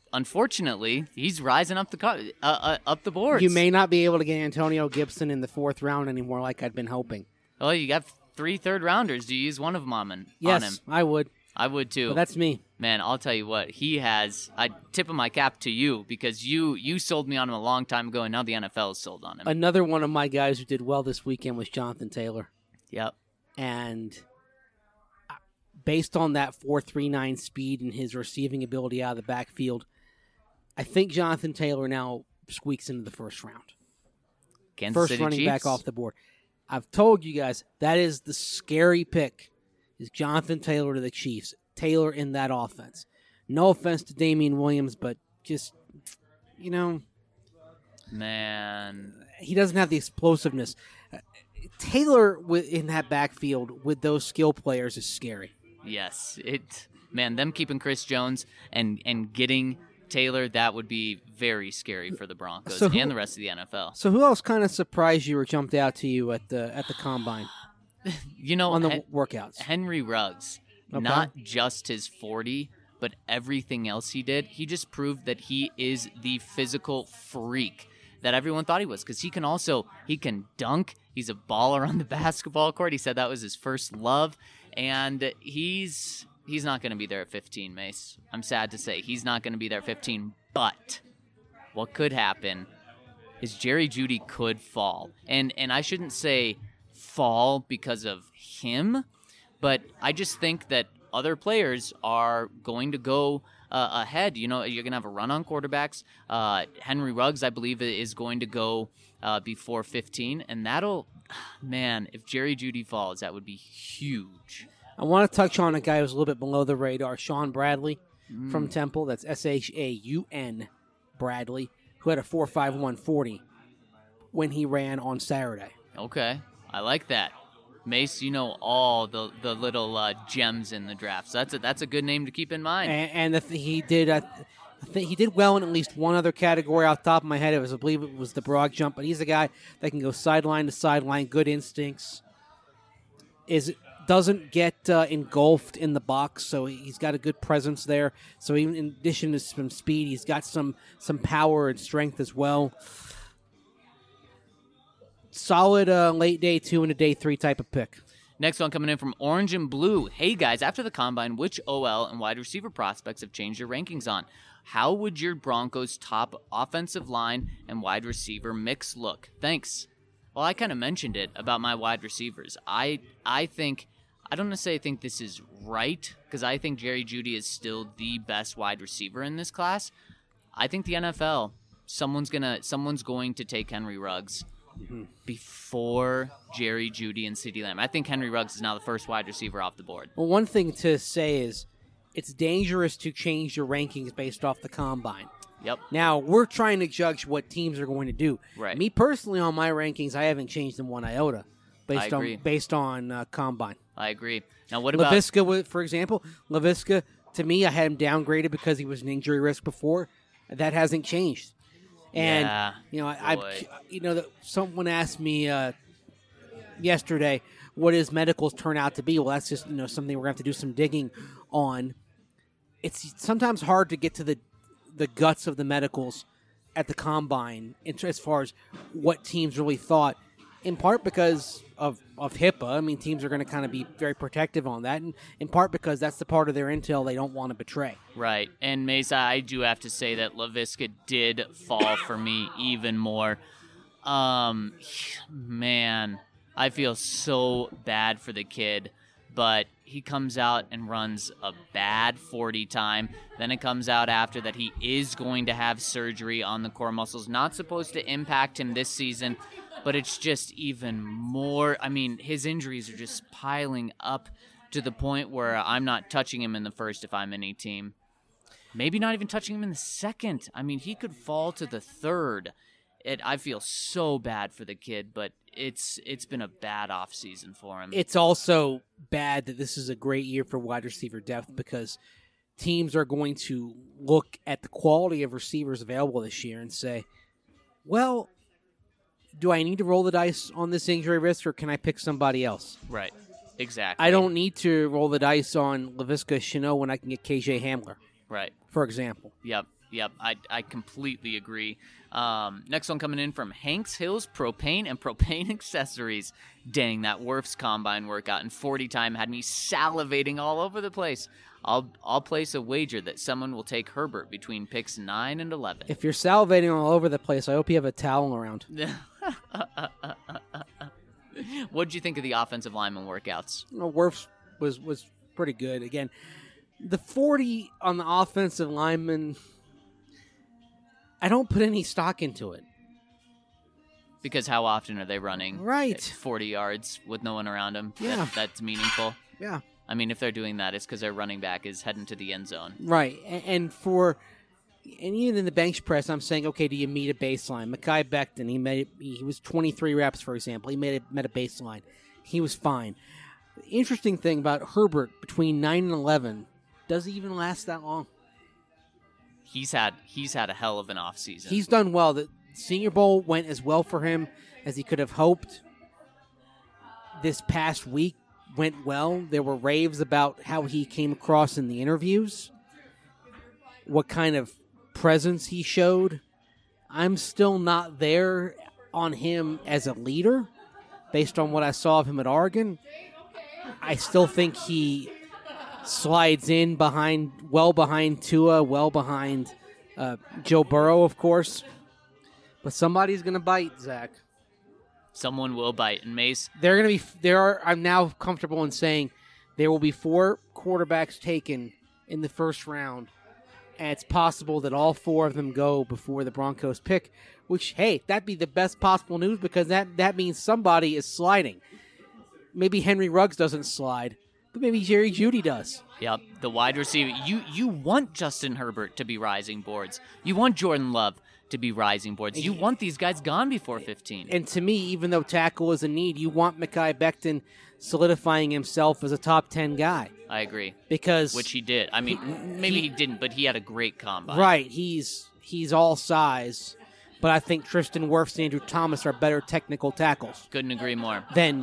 unfortunately, he's rising up the co- uh, uh, up the boards. You may not be able to get Antonio Gibson in the fourth round anymore like I'd been hoping. Oh, you got three third rounders. Do you use one of them on him? Yes, on him? I would. I would too. But that's me. Man, I'll tell you what, he has. I tip of my cap to you because you you sold me on him a long time ago, and now the N F L is sold on him. Another one of my guys who did well this weekend was Jonathan Taylor. Yep. And based on that four three nine speed and his receiving ability out of the backfield, I think Jonathan Taylor now squeaks into the first round. Kansas First City running Chiefs. back off the board. I've told you guys, that is the scary pick, is Jonathan Taylor to the Chiefs. Taylor in that offense. No offense to Damian Williams, but just, you know, Man. he doesn't have the explosiveness. Uh, Taylor wi- in that backfield with those skill players is scary. Yes. It. Man, them keeping Chris Jones and, and getting Taylor, that would be very scary for the Broncos So who- and the rest of the N F L. So who else kind of surprised you or jumped out to you at the at the combine You know, on the Hen- workouts? Henry Ruggs, Okay. not just his forty, but everything else he did, he just proved that he is the physical freak that everyone thought he was, because he can also, he can dunk. He's a baller on the basketball court. He said that was his first love, and he's he's not going to be there at fifteen, Mace. I'm sad to say he's not going to be there at fifteen, but what could happen is Jerry Jeudy could fall, and and I shouldn't say fall because of him, but I just think that other players are going to go uh, ahead. You know, you're going to have a run on quarterbacks. Uh, Henry Ruggs, I believe, is going to go uh, before fifteen, and that'll, man, if Jerry Jeudy falls, that would be huge. I want to touch on a guy who's a little bit below the radar, Sean Bradley from Temple. That's S H A U N Bradley, who had a four five one forty when he ran on Saturday. Okay, I like that. Mace, you know all the the little uh, gems in the draft. So that's a, that's a good name to keep in mind. And, and the th- he did, uh, I think he did well in at least one other category. Off the top of my head, it was I believe it was the broad jump. But he's a guy that can go sideline to sideline, good instincts. Is doesn't get uh, engulfed in the box, so he's got a good presence there. So even in addition to some speed, he's got some some power and strength as well. Solid uh, late day two and a day three type of pick. Next one coming in from Orange and Blue. Hey guys, after the combine, which O L and wide receiver prospects have changed your rankings on? How would your Broncos' top offensive line and wide receiver mix look? Thanks. Well, I kind of mentioned it about my wide receivers. I I think I don't necessarily think this is right, because I think Jerry Jeudy is still the best wide receiver in this class. I think the N F L, someone's gonna someone's going to take Henry Ruggs before Jerry Jeudy and CeeDee Lamb. I think Henry Ruggs is now the first wide receiver off the board. Well, one thing to say is it's dangerous to change your rankings based off the combine. Yep. Now, we're trying to judge what teams are going to do. Right. Me personally, on my rankings, I haven't changed them one iota based I agree. on based on uh, combine. I agree. Now, what about LaVisca, wa- for example, LaVisca, to me, I had him downgraded because he was an injury risk before. That hasn't changed. And Yeah, you know, I, boy. I you know, that someone asked me uh, yesterday, what his medicals turn out to be? Well, that's just you know something we're going to have to do some digging on. It's sometimes hard to get to the the guts of the medicals at the combine in- as far as what teams really thought. In part because of, of HIPAA. I mean, teams are going to kind of be very protective on that. And in part because that's the part of their intel they don't want to betray. Right. And Mesa, I do have to say that LaVisca did fall for me even more. Um, man, I feel so bad for the kid, but he comes out and runs a bad forty time. Then it comes out after that he is going to have surgery on the core muscles. Not supposed to impact him this season, but it's just even more. I mean, his injuries are just piling up to the point where I'm not touching him in the first if I'm any team. Maybe not even touching him in the second. I mean, he could fall to the third. It, I feel so bad for the kid, but it's it's been a bad offseason for him. It's also bad that this is a great year for wide receiver depth because teams are going to look at the quality of receivers available this year and say, well, do I need to roll the dice on this injury risk or can I pick somebody else? Right. Exactly. I don't need to roll the dice on LaVisca Chenault when I can get K J Hamler, Right. for example. Yep. Yep, I, I completely agree. Um, next one coming in from Hanks Hills Propane and Propane Accessories. Dang, that Werf's Combine workout in forty time had me salivating all over the place. I'll I'll place a wager that someone will take Herbert between picks nine and eleven. If you're salivating all over the place, I hope you have a towel around. What did you think of the offensive lineman workouts? Well, Werf's was, was pretty good. Again, the forty on the offensive lineman, I don't put any stock into it. Because how often are they running Right. forty yards with no one around them? Yeah. That, that's meaningful. Yeah. I mean, if they're doing that, it's because their running back is heading to the end zone. Right. And, and for and even in the bench press, I'm saying, okay, do you meet a baseline? Mekhi Becton, he made he was twenty-three reps, for example. He made a, met a baseline. He was fine. The interesting thing about Herbert between nine and eleven, does he even last that long? He's had he's had a hell of an offseason. He's done well. The Senior Bowl went as well for him as he could have hoped. This past week went well. There were raves about how he came across in the interviews, what kind of presence he showed. I'm still not there on him as a leader based on what I saw of him at Oregon. I still think he slides in behind, well behind Tua, well behind uh, Joe Burrow, of course. But somebody's going to bite, Zach. Someone will bite. And Mace, They're going to be. There are. I'm now comfortable in saying there will be four quarterbacks taken in the first round, and it's possible that all four of them go before the Broncos pick. Which, hey, that'd be the best possible news because that that means somebody is sliding. Maybe Henry Ruggs doesn't slide, but maybe Jerry Jeudy does. yep, the wide receiver. You you want Justin Herbert to be rising boards. You want Jordan Love to be rising boards. You want these guys gone before fifteen. And to me, even though tackle is a need, you want Mekhi Becton solidifying himself as a top ten guy. I agree. Because Which he did. I mean, he- maybe he- he didn't, but he had a great combine. Right, he's he's all size, but I think Tristan Wirfs and Andrew Thomas are better technical tackles Couldn't agree more. than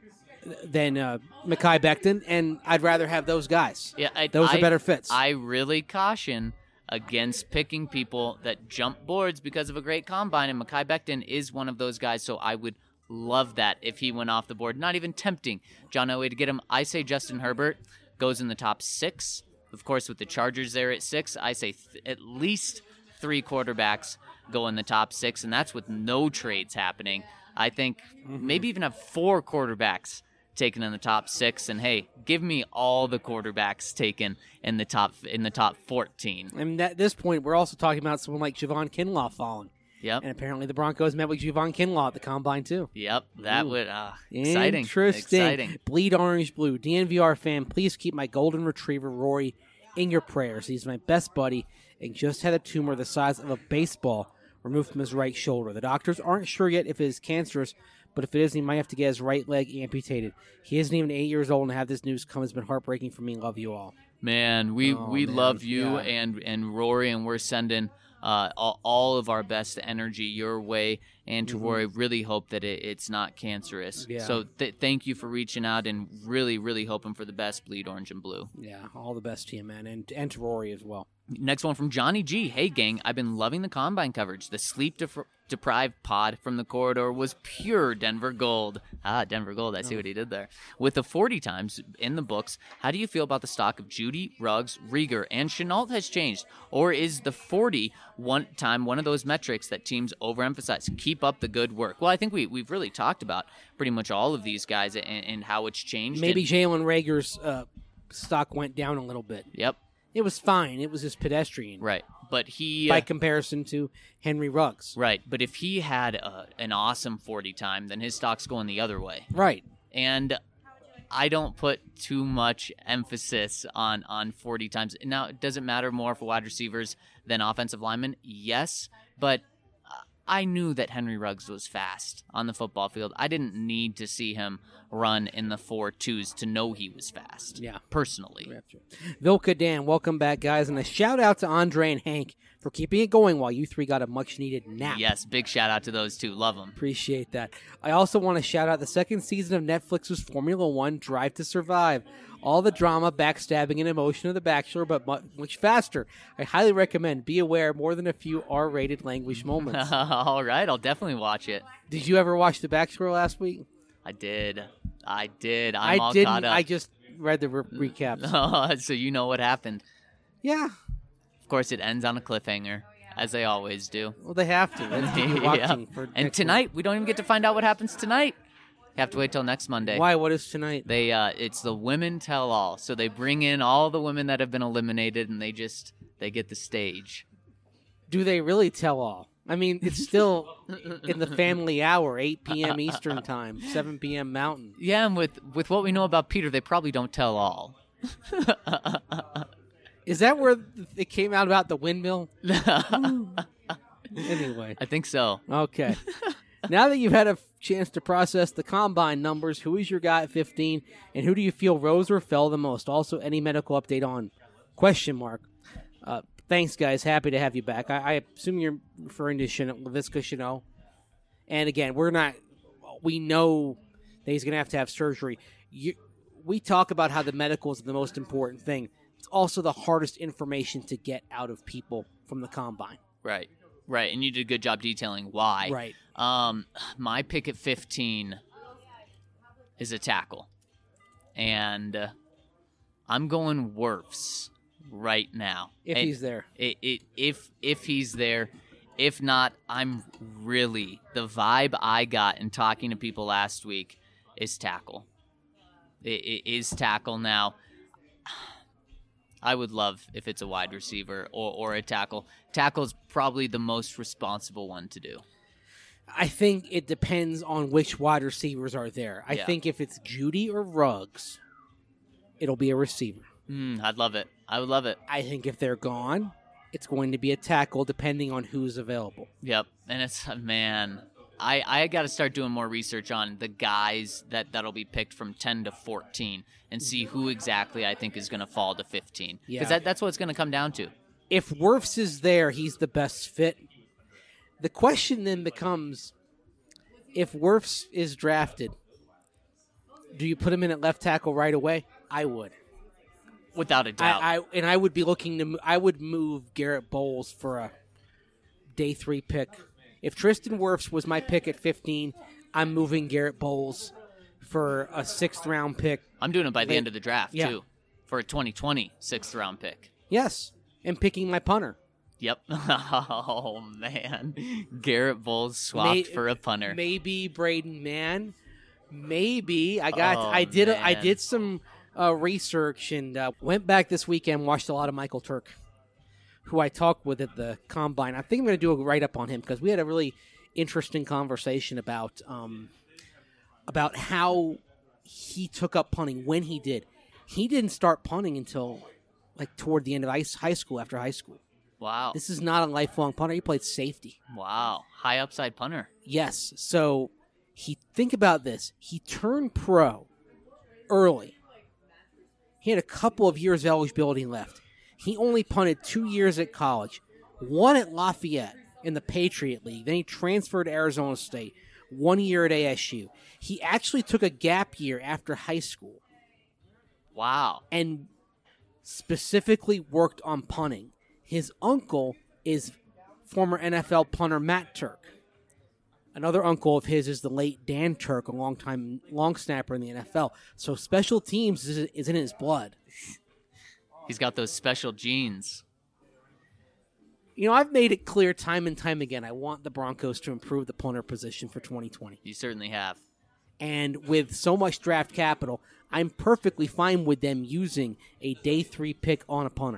than uh, Mekhi Becton, and I'd rather have those guys. Yeah, I, Those I- are better fits. I really caution against picking people that jump boards because of a great combine, and Mekhi Becton is one of those guys, so I would love that if he went off the board. Not even tempting John Elway to get him. I say Justin Herbert goes in the top six. Of course, with the Chargers there at six, I say th- at least three quarterbacks go in the top six, and that's with no trades happening. I think maybe even have four quarterbacks taken in the top six, and hey, give me all the quarterbacks taken in the top in the top fourteen. and at this point, we're also talking about someone like Javon Kinlaw falling, Yep, and apparently the Broncos met with Javon Kinlaw at the combine too. yep, that Ooh. would uh, exciting, Interesting. exciting. Bleed orange blue. D N V R fan, please keep my golden retriever Rory in your prayers. He's my best buddy and just had a tumor the size of a baseball removed from his right shoulder. The doctors aren't sure yet if it is cancerous, but if it is, he might have to get his right leg amputated. He isn't even eight years old, and to have this news come has been heartbreaking for me. Love you all. Man, we Oh, we man. love you Yeah. and and Rory, and we're sending uh, all, all of our best energy your way. And to Rory, really hope that it, it's not cancerous. Mm-hmm. Yeah. So th- thank you for reaching out, and really, really hoping for the best. Bleed orange and blue. Yeah, all the best to you, man, and, and to Rory as well. Next one from Johnny G. Hey, gang, I've been loving the combine coverage. The sleep def- deprived pod from the corridor was pure Denver gold. Ah, Denver gold. I see what he did there. With the forty times in the books, how do you feel about the stock of Judy, Ruggs, Rieger, and Chenault has changed? Or is the forty one time one of those metrics that teams overemphasize? Keep up the good work. Well, I think we, we've really talked about pretty much all of these guys and, and how it's changed. Maybe And- Jalen Rager's uh, stock went down a little bit. Yep, It was fine. It was just pedestrian right. But he... by comparison to Henry Ruggs. Right, but if he had uh, an awesome forty time, then his stock's going the other way. Right. And I don't put too much emphasis on, on forty times. Now, it doesn't matter more for wide receivers than offensive linemen, yes, but I knew that Henry Ruggs was fast on the football field. I didn't need to see him run in the four twos to know he was fast. Yeah. Personally. Vilka Dan, welcome back, guys. And a shout out to Andre and Hank for keeping it going while you three got a much needed nap. Yes, big shout out to those two. Love them. Appreciate that. I also want to shout out the second season of Netflix's Formula One Drive to Survive. all the drama, backstabbing, and emotion of The Bachelor, but mu- much faster. I highly recommend. Be aware, more than a few R-rated language moments. All right, I'll definitely watch it. Did you ever watch The Bachelor last week? I did. I did. I'm I all didn't. caught up. I just read the re- recaps. Oh, so you know what happened. Yeah. Of course, it ends on a cliffhanger, as they always do. Well, they have to. They have to be watching Yeah. for And next tonight, we don't even get to find out what happens tonight. You have to wait till next Monday. week. Why? What is tonight? They, uh, it's the women tell all. So they bring in all the women that have been eliminated, and they just they get the stage. Do they really tell all? I mean, it's still in the family hour, eight p.m. Eastern time, seven p.m. Mountain. Yeah, and with with what we know about Peter, they probably don't tell all. Is that where it came out about the windmill? Anyway. I think so. Okay. Now that you've had a chance to process the combine numbers, who is your guy at fifteen, and who do you feel rose or fell the most? Also, any medical update on question mark. Uh, thanks, guys. Happy to have you back. I, I assume you're referring to Chanel, Laviska Chanel. And again, we're not. We know that he's going to have to have surgery. You, we talk about how the medical is the most important thing. It's also the hardest information to get out of people from the combine. Right. Right. And you did a good job detailing why. Right. Um, my pick at fifteen is a tackle. And uh, I'm going Wirfs right now. If And he's there. It, it, if if he's there. If not, I'm really, the vibe I got in talking to people last week is tackle. It, it is tackle now. I would love if it's a wide receiver or, or a tackle. Tackle's probably the most responsible one to do. I think it depends on which wide receivers are there. I Yeah. think if it's Judy or Ruggs, it'll be a receiver. Mm, I'd love it. I would love it. I think if they're gone, it's going to be a tackle depending on who's available. Yep. And it's, man, I, I got to start doing more research on the guys that, that'll be picked from ten to fourteen and see who exactly I think is going to fall to fifteen. Because Yeah. that, that's what it's going to come down to. If Wirfs is there, he's the best fit. The question then becomes, if Wirfs is drafted, do you put him in at left tackle right away? I would. Without a doubt. I, I and I would be looking to. mo- I would move Garrett Bowles for a day three pick. If Tristan Wirfs was my pick at fifteen, I'm moving Garrett Bowles for a sixth round pick. I'm doing it by the Late- end of the draft, Yeah. too, for a twenty twenty sixth round pick. Yes, and picking my punter. Yep. Oh, man. Garrett Bowles swapped May- for a punter. Maybe Braden Mann. Maybe I got. Oh, I did. A, I man. did some uh, research and uh, went back this weekend. Watched a lot of Michael Turk, who I talked with at the combine. I think I'm going to do a write up on him because we had a really interesting conversation about um, about how he took up punting when he did. He didn't start punting until like toward the end of ice- high school. After high school, Wow. this is not a lifelong punter. He played safety. Wow. High upside punter. Yes. So he think about this. He turned pro early. He had a couple of years of eligibility left. He only punted two years at college, one at Lafayette in the Patriot League. Then he transferred to Arizona State, one year at A S U. He actually took a gap year after high school Wow. and specifically worked on punting. His uncle is former N F L punter Matt Turk. Another uncle of his is the late Dan Turk, a longtime long snapper in the N F L. So special teams is, is in his blood. He's got those special genes. You know, I've made it clear time and time again, I want the Broncos to improve the punter position for twenty twenty. You certainly have. And with so much draft capital, I'm perfectly fine with them using a day three pick on a punter.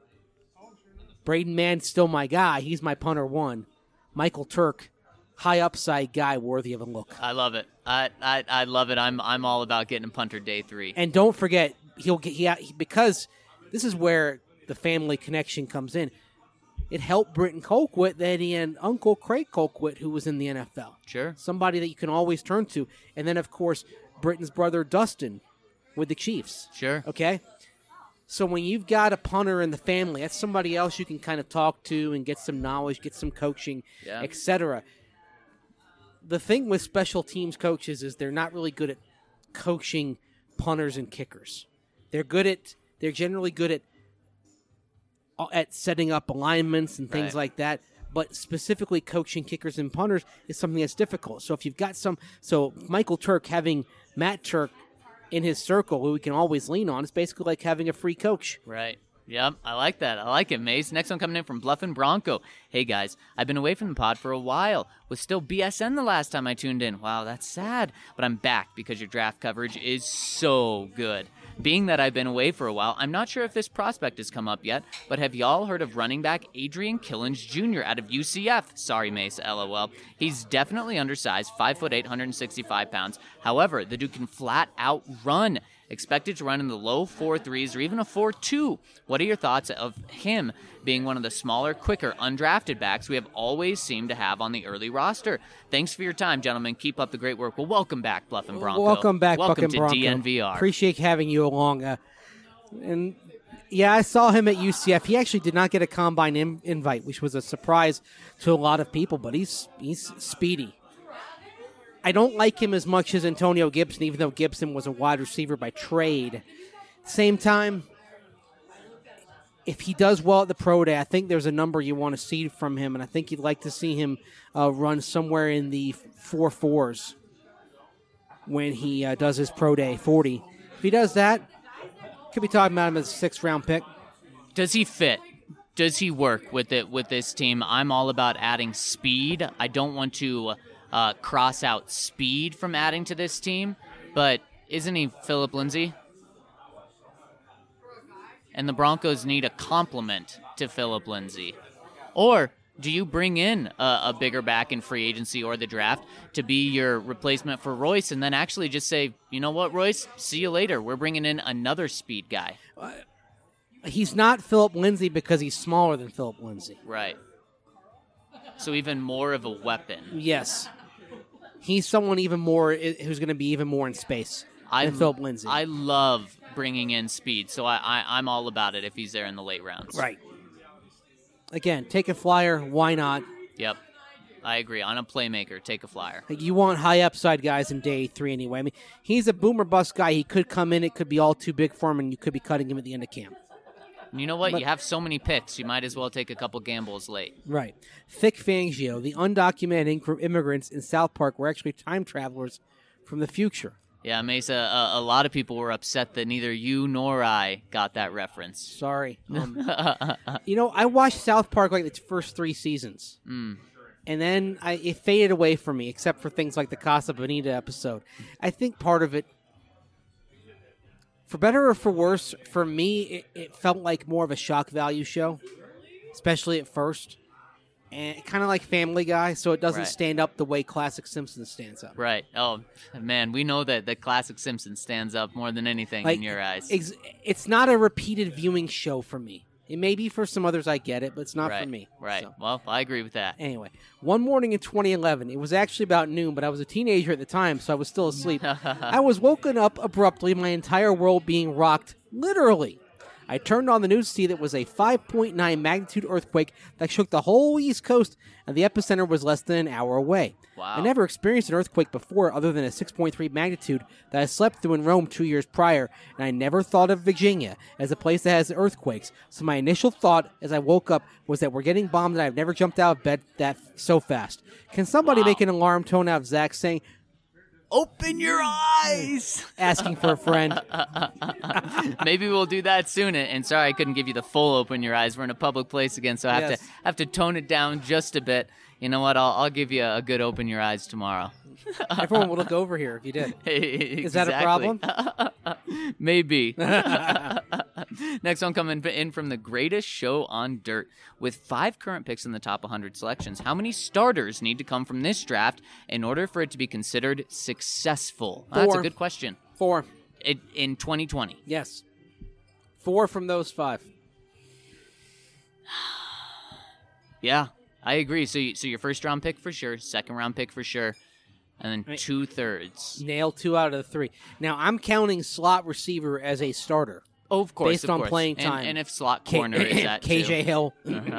Braden Mann's still my guy. He's my punter one. Michael Turk, high upside guy worthy of a look. I love it. I, I I love it. I'm I'm all about getting a punter day three. And don't forget, he'll get he, he because this is where the family connection comes in. It helped Britton Colquitt that he had Uncle Craig Colquitt, who was in the N F L. Sure. Somebody that you can always turn to. And then, of course, Britton's brother Dustin with the Chiefs. Sure. Okay? So when you've got a punter in the family, that's somebody else you can kind of talk to and get some knowledge, get some coaching, Yeah. et cetera. The thing with special teams coaches is they're not really good at coaching punters and kickers. They're good at. They're generally good at at setting up alignments and things Right. like that. But specifically coaching kickers and punters is something that's difficult. So if you've got some, so Michael Turk having Matt Turk in his circle, who we can always lean on, is basically like having a free coach. Right. Yep, I like that. I like it, Mace. Next one coming in from Bluffin' Bronco. Hey, guys, I've been away from the pod for a while. Was still B S N the last time I tuned in. Wow, that's sad. But I'm back because your draft coverage is so good. Being that I've been away for a while, I'm not sure if this prospect has come up yet, but have y'all heard of running back Adrian Killins Junior out of U C F? Sorry, Mace, LOL. He's definitely undersized, five foot eight, one hundred sixty-five pounds. However, the dude can flat out run. Expected to run in the low four threes or even a four two. What are your thoughts of him being one of the smaller, quicker, undrafted backs we have always seemed to have on the early roster? Thanks for your time, gentlemen. Keep up the great work. Well, welcome back, Bluffin' Bronco. Welcome back, welcome Buckin' to Bronco. D N V R. Appreciate having you along. Uh, and yeah, I saw him at U C F. He actually did not get a combine in- invite, which was a surprise to a lot of people. But he's he's speedy. I don't like him as much as Antonio Gibson, even though Gibson was a wide receiver by trade. Same time, if he does well at the pro day, I think there's a number you want to see from him, and I think you'd like to see him uh, run somewhere in the four fours when he uh, does his pro day, forty. If he does that, could be talking about him as a sixth round pick. Does he fit? Does he work with it with this team? I'm all about adding speed. I don't want to uh, cross out speed from adding to this team, but isn't he Philip Lindsay? And the Broncos need a complement to Philip Lindsay. Or do you bring in a, a bigger back in free agency or the draft to be your replacement for Royce and then actually just say, you know what, Royce, see you later. We're bringing in another speed guy. He's not Philip Lindsay because he's smaller than Philip Lindsay. Right. So even more of a weapon. Yes. He's someone even more who's going to be even more in space I, than Philip Lindsay. I love bringing in speed, so I, I, I'm all about it if he's there in the late rounds. Right. Again, take a flyer. Why not? Yep. I agree. On a playmaker, take a flyer. Like, you want high upside guys in day three anyway. I mean, he's a boomer bust guy. He could come in. It could be all too big for him, and you could be cutting him at the end of camp. And you know what? But- you have so many picks, you might as well take a couple gambles late. Right. Thick Fangio, the undocumented inc- immigrants in South Park were actually time travelers from the future. Yeah, Mesa, a, a lot of people were upset that neither you nor I got that reference. Sorry. Um, you know, I watched South Park like its first three seasons. Mm. And then I, it faded away from me, except for things like the Casa Bonita episode. I think part of it, for better or for worse, for me, it, it felt like more of a shock value show, especially at first. And kind of like Family Guy, so it doesn't Right. stand up the way classic Simpsons stands up. Right. Oh, man, we know that the classic Simpsons stands up more than anything Like, in your eyes. Ex- it's not a repeated viewing show for me. It may be for some others, I get it, but it's not right. for me. Right. So, Well, I agree with that. anyway, one morning in twenty eleven, it was actually about noon, but I was a teenager at the time, so I was still asleep. I was woken up abruptly, my entire world being rocked, literally. I turned on the news to see that it was a five point nine magnitude earthquake that shook the whole East Coast, and the epicenter was less than an hour away. Wow. I never experienced an earthquake before other than a six point three magnitude that I slept through in Rome two years prior, and I never thought of Virginia as a place that has earthquakes. So my initial thought as I woke up was that we're getting bombed and I've never jumped out of bed that so fast. Can somebody Wow. make an alarm tone out of Zach saying, Open your eyes! asking for a friend? Maybe we'll do that soon. And and sorry I couldn't give you the full open your eyes. We're in a public place again, so I have Yes. to have to tone it down just a bit. You know what? I'll I'll give you a good open your eyes tomorrow. Everyone would look over here if you did. Is that a problem? Maybe. Next one coming in from the greatest show on dirt. With five current picks in the top one hundred selections, how many starters need to come from this draft in order for it to be considered successful? That's a Four. good question. Four. It, in twenty twenty. Yes. Four from those five. Yeah, I agree. So, you, so your first round pick for sure, second round pick for sure, and then Right. two thirds. Nailed two out of the three. Now, I'm counting slot receiver as a starter. Oh, of course, Based of on course. playing And- time. and, if slot K- corner is that K J too. Hill,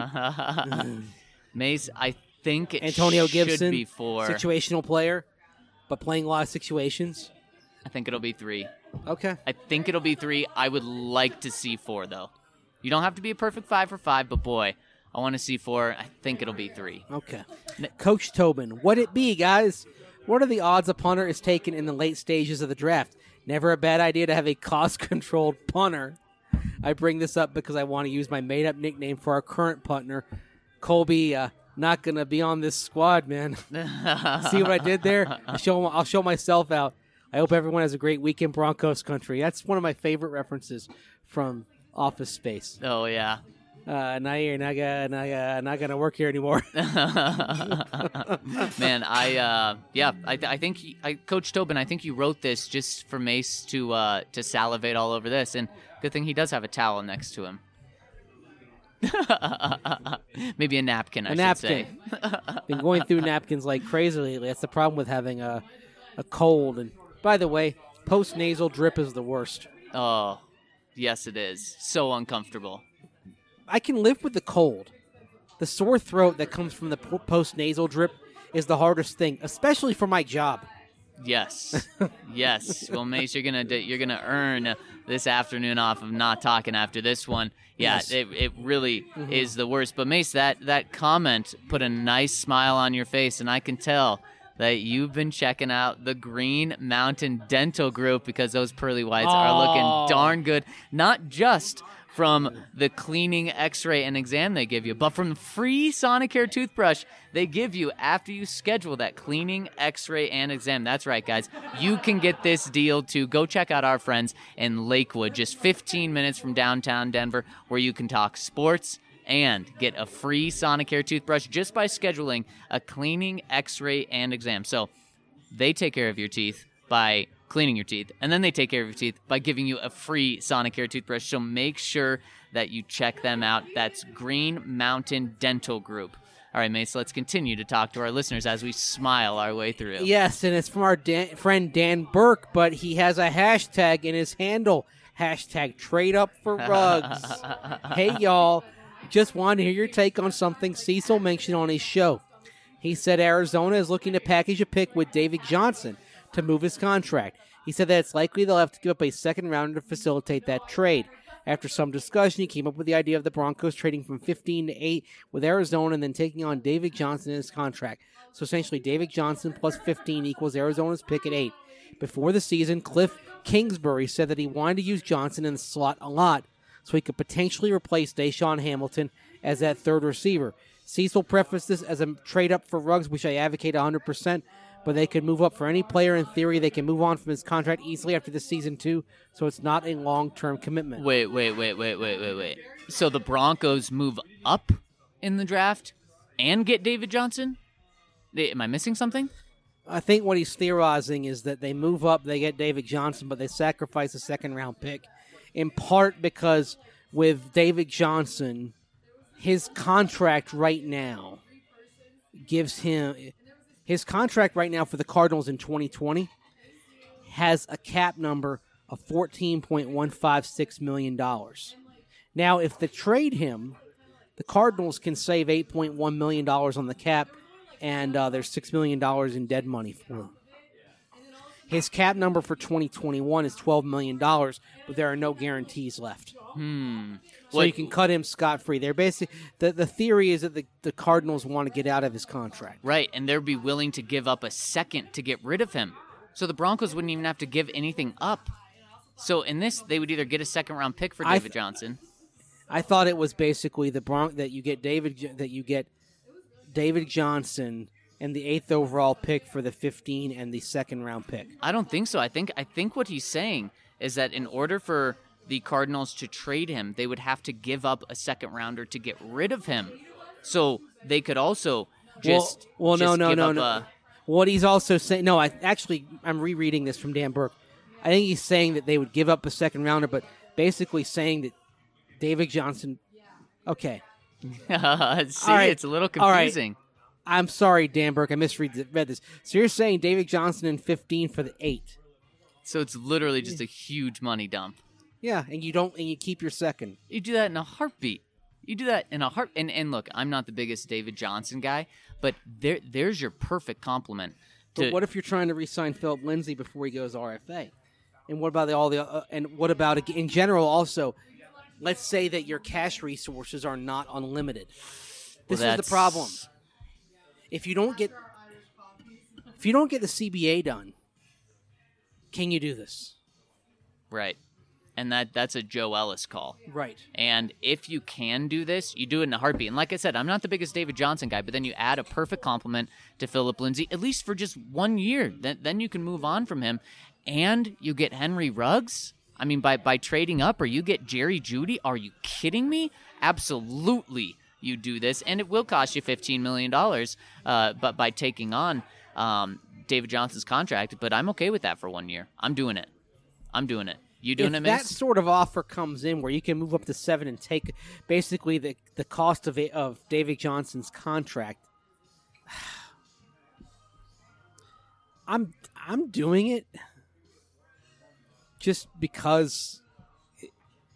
Mace, I think it Antonio should Gibson, be four. situational player, but playing a lot of situations. I think it'll be three. Okay. I think it'll be three. I would like to see four, though. You don't have to be a perfect five for five, but boy, I want to see four. I think it'll be three. Okay. Coach Tobin, what it be, guys? What are the odds a punter is taken in the late stages of the draft? Never a bad idea to have a cost-controlled punter. I bring this up because I want to use my made-up nickname for our current punter. Colby, uh, not going to be on this squad, man. See what I did there? I'll show, I'll show myself out. I hope everyone has a great week in Broncos country. That's one of my favorite references from Office Space. Oh, yeah. Uh, now you're not gonna, not gonna, not gonna work here anymore. Man, I uh, yeah, I, I think he, I, Coach Tobin, I think you wrote this just for Mace to uh, to salivate all over this, and good thing he does have a towel next to him. Maybe a napkin, I a should napkin. say. Been going through napkins like crazy lately. That's the problem with having a a cold. And by the way, post nasal drip is the worst. Oh, yes, it is. So uncomfortable. I can live with the cold. The sore throat that comes from the post nasal drip is the hardest thing, especially for my job. Yes, yes. Well, Mace, you're gonna you're gonna earn this afternoon off of not talking after this one. Yeah, Yes. it it really Mhm. is the worst. But Mace, that that comment put a nice smile on your face, and I can tell that you've been checking out the Green Mountain Dental Group because those pearly whites are Oh. looking darn good. Not just from the cleaning, x-ray, and exam they give you, but from the free Sonicare toothbrush they give you after you schedule that cleaning, x-ray, and exam. That's right, guys. You can get this deal, too. Go check out our friends in Lakewood, just fifteen minutes from downtown Denver, where you can talk sports and get a free Sonicare toothbrush just by scheduling a cleaning, x-ray, and exam. So they take care of your teeth by cleaning your teeth, and then they take care of your teeth by giving you a free Sonicare toothbrush. So make sure that you check them out. That's Green Mountain Dental Group. All right, Mace, let's continue to talk to our listeners as we smile our way through. Yes, and it's from our Dan, friend Dan Burke, but he has a hashtag in his handle. Hashtag trade up for rugs. Hey, y'all. Just wanted to hear your take on something Cecil mentioned on his show. He said Arizona is looking to package a pick with David Johnson to move his contract. He said that it's likely they'll have to give up a second rounder to facilitate that trade. After some discussion, he came up with the idea of the Broncos trading from fifteen to eight with Arizona and then taking on David Johnson in his contract. So essentially, David Johnson plus fifteen equals Arizona's pick at eight. Before the season, Cliff Kingsbury said that he wanted to use Johnson in the slot a lot so he could potentially replace Deshaun Hamilton as that third receiver. Cecil prefaced this as a trade up for Ruggs, which I advocate one hundred percent. But they could move up for any player in theory. They can move on from his contract easily after this season, too. So it's not a long-term commitment. Wait, wait, wait, wait, wait, wait, wait. So the Broncos move up in the draft and get David Johnson? They, am I missing something? I think what he's theorizing is that they move up, they get David Johnson, but they sacrifice a second-round pick. In part because with David Johnson, his contract right now gives him... His contract right now for the Cardinals in twenty twenty has a cap number of fourteen point one five six million dollars. Now, if they trade him, the Cardinals can save eight point one million dollars on the cap, and uh, there's six million dollars in dead money for him. His cap number for twenty twenty-one is twelve million dollars, but there are no guarantees left. Hmm. So What- you can cut him scot-free. They're basically the, the theory is that the, the Cardinals want to get out of his contract. Right, and they'd be willing to give up a second to get rid of him. So the Broncos wouldn't even have to give anything up. So in this, they would either get a second-round pick for I David th- Johnson. I thought it was basically the Bron- that you get David that you get David Johnson and the eighth overall pick for the fifteen and the second round pick. I don't think so. I think I think what he's saying is that in order for the Cardinals to trade him, they would have to give up a second rounder to get rid of him. So they could also just well, well just no, no, give no, up no. a- What he's also saying, no, I actually I'm rereading this from Dan Burke. I think he's saying that they would give up a second rounder, but basically saying that David Johnson. Okay, See, All right. it's a little All right. confusing. I'm sorry, Dan Burke. I misread th- read this. So you're saying David Johnson in fifteen for the eight? So it's literally just a huge money dump. Yeah, and you don't, and you keep your second. You do that in a heartbeat. You do that in a heart. And, and look, I'm not the biggest David Johnson guy, but there there's your perfect compliment. To, But what if you're trying to re-sign Philip Lindsay before he goes R F A? And what about the, all the uh, and what about in general also? Let's say that your cash resources are not unlimited. This Well, is the problem. If you don't get if you don't get the C B A done, can you do this? Right. And that that's a Joe Ellis call. Right. And if you can do this, you do it in a heartbeat. And like I said, I'm not the biggest David Johnson guy, but then you add a perfect compliment to Philip Lindsay, at least for just one year. Then, then you can move on from him. And you get Henry Ruggs? I mean, by, by trading up, or you get Jerry Jeudy? Are you kidding me? Absolutely you do this. And it will cost you fifteen million dollars uh, but by taking on um, David Johnson's contract. But I'm okay with that for one year. I'm doing it. I'm doing it. You doing if it, that Mace? sort of offer comes in where you can move up to seven and take basically the, the cost of a, of David Johnson's contract, I'm I'm doing it just because. It,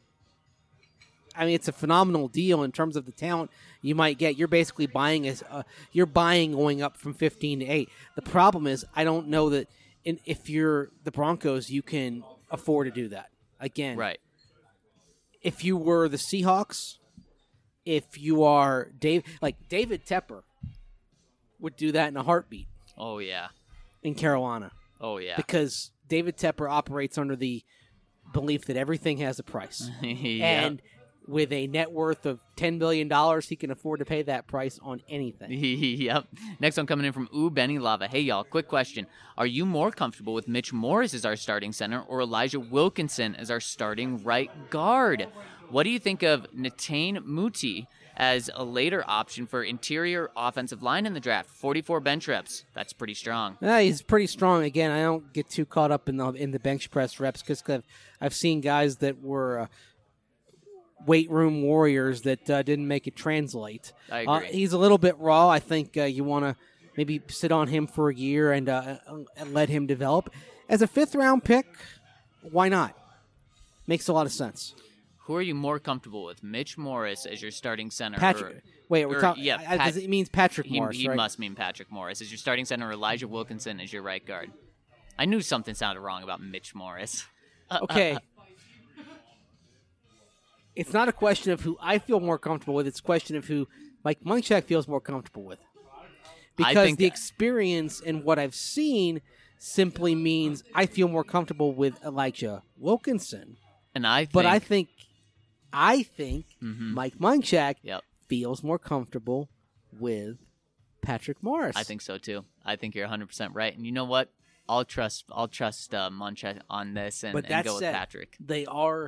I mean, it's a phenomenal deal in terms of the talent you might get. You're basically buying as uh, you're buying going up from fifteen to eight. The problem is, I don't know that in, if you're the Broncos, you can afford to do that again. Right. If you were the Seahawks, if you are Dave, like David Tepper, would do that in a heartbeat Oh, yeah. in Carolina Oh, yeah. because David Tepper operates under the belief that everything has a price, Yeah. and with a net worth of ten billion dollars, he can afford to pay that price on anything. Yep. Next one coming in from Ooh Benny Lava. Hey, y'all, quick question. Are you more comfortable with Mitch Morris as our starting center or Elijah Wilkinson as our starting right guard? What do you think of Netane Muti as a later option for interior offensive line in the draft? forty-four bench reps. That's pretty strong. Yeah, he's pretty strong. Again, I don't get too caught up in the in the bench press reps because I've, I've seen guys that were uh, weight room warriors that uh, didn't make it translate. I Uh, agree. he's a little bit raw. I think uh, you want to maybe sit on him for a year and, uh, and let him develop. As a fifth round pick, why not? Makes a lot of sense. Who are you more comfortable with, Mitch Morris as your starting center? Patrick. Or, Wait, we're or- talking. yeah, I- I- Pat- does it means Patrick he Morris, he right? must mean Patrick Morris as your starting center or Elijah Wilkinson as your right guard. I knew something sounded wrong about Mitch Morris. Okay. It's not a question of who I feel more comfortable with. It's a question of who Mike Munchak feels more comfortable with. I Because think the that- experience and what I've seen simply means I feel more comfortable with Elijah Wilkinson. And I think, But I think, I think Mhm. Mike Munchak Yep. feels more comfortable with Patrick Morris. I think so too. I think you're one hundred percent right. And you know what? I'll trust I'll trust uh, Munchak on this and, But and that go said, with Patrick. They are,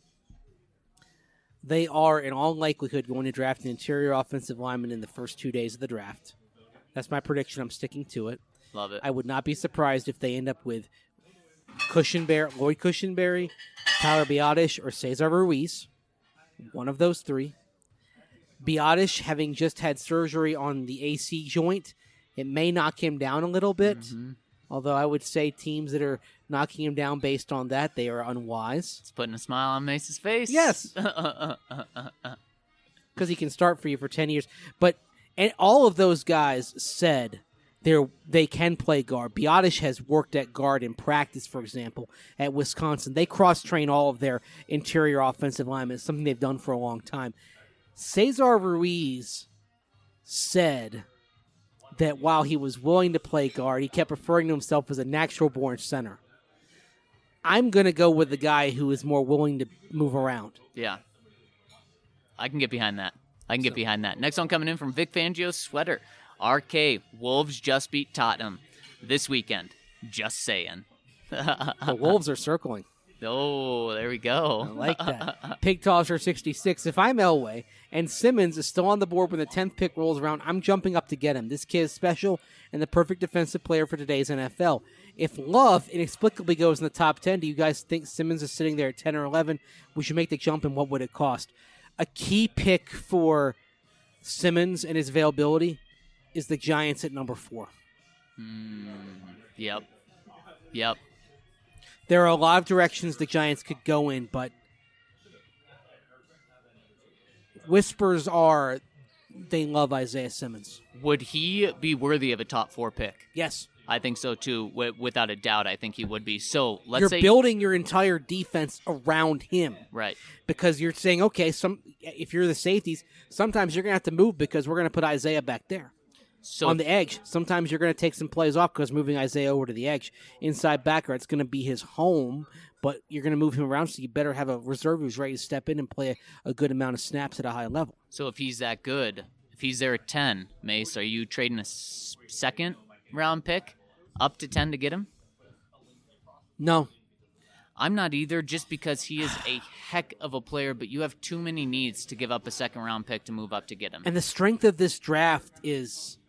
they are in all likelihood going to draft an interior offensive lineman in the first two days of the draft. That's my prediction. I'm sticking to it. Love it. I would not be surprised if they end up with Cushenberry, Lloyd Cushenberry, Tyler Biotish, or Cesar Ruiz. One of those three. Biotish, having just had surgery on the A C joint, it may knock him down a little bit. Mhm. Although I would say teams that are knocking him down based on that, they are unwise. It's putting a smile on Mace's face. Yes. Because he can start for you for ten years. But and all of those guys said they're, they can play guard. Biotish has worked at guard in practice, for example, at Wisconsin. They cross-train all of their interior offensive linemen. It's something they've done for a long time. Cesar Ruiz said that while he was willing to play guard, he kept referring to himself as a natural-born center. I'm going to go with the guy who is more willing to move around. Yeah. I can get behind that. I can get behind that. Next one coming in from Vic Fangio's sweater. R K, Wolves just beat Tottenham this weekend. Just saying. The Wolves are circling. Oh, there we go. I like that. Pig Tosser sixty-six. If I'm Elway and Simmons is still on the board when the tenth pick rolls around, I'm jumping up to get him. This kid is special and the perfect defensive player for today's N F L. If Love inexplicably goes in the top ten, do you guys think Simmons is sitting there at ten or eleven? We should make the jump, and what would it cost? A key pick for Simmons and his availability is the Giants at number four. Mm, yep. Yep. There are a lot of directions the Giants could go in, but whispers are they love Isaiah Simmons. Would he be worthy of a top four pick? Yes. I think so too. W- without a doubt, I think he would be. So let's You're say building your entire defense around him. right. Because you're saying, okay, some if you're the safeties, sometimes you're going to have to move because we're going to put Isaiah back there. So on the edge. Sometimes you're going to take some plays off because moving Isaiah over to the edge. Inside backer, it's going to be his home, but you're going to move him around, so you better have a reserve who's ready to step in and play a, a good amount of snaps at a high level. So if he's that good, if he's there at ten, Mace, are you trading a s- second round pick up to ten to get him? No. I'm not either, just because he is a heck of a player, but you have too many needs to give up a second round pick to move up to get him. And the strength of this draft is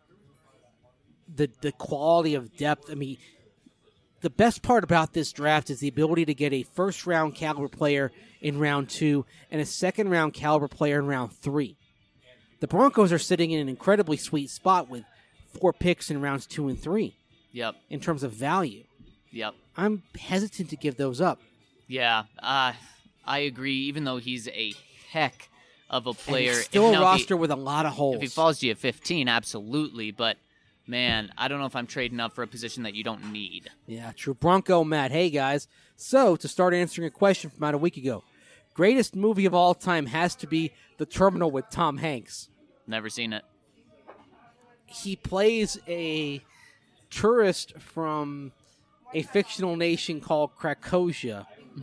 the the quality of depth. I mean, the best part about this draft is the ability to get a first round caliber player in round two and a second round caliber player in round three. The Broncos are sitting in an incredibly sweet spot with four picks in rounds two and three Yep, in terms of value. yep. I'm hesitant to give those up. Yeah, uh, I agree, even though he's a heck of a And player. it's still If- a now, if he- roster with a lot of holes. If he falls to you at fifteen, absolutely. But, man, I don't know if I'm trading up for a position that you don't need. Yeah, true. Bronco Matt. Hey, guys. So, to start answering a question from about a week ago, greatest movie of all time has to be The Terminal with Tom Hanks. Never seen it. He plays a tourist from a fictional nation called Krakosia,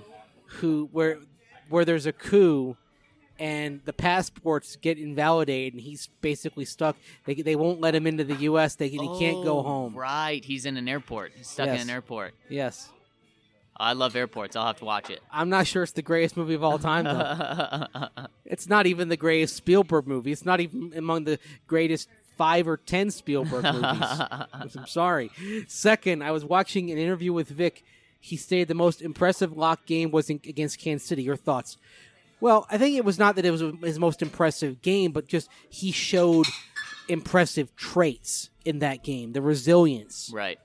who where where there's a coup and the passports get invalidated, and he's basically stuck. They they won't let him into the U S. They he can't go Oh, home. Right, he's in an airport. He's stuck Yes. in an airport. Yes, I love airports. I'll have to watch it. I'm not sure it's the greatest movie of all time though. It's not even the greatest Spielberg movie. It's not even among the greatest five or ten Spielberg movies. I'm sorry. Second, I was watching an interview with Vic. He stated the most impressive lock game was in, against Kansas City. Your thoughts? Well, I think it was not that it was his most impressive game, but just he showed impressive traits in that game. The resilience. Right.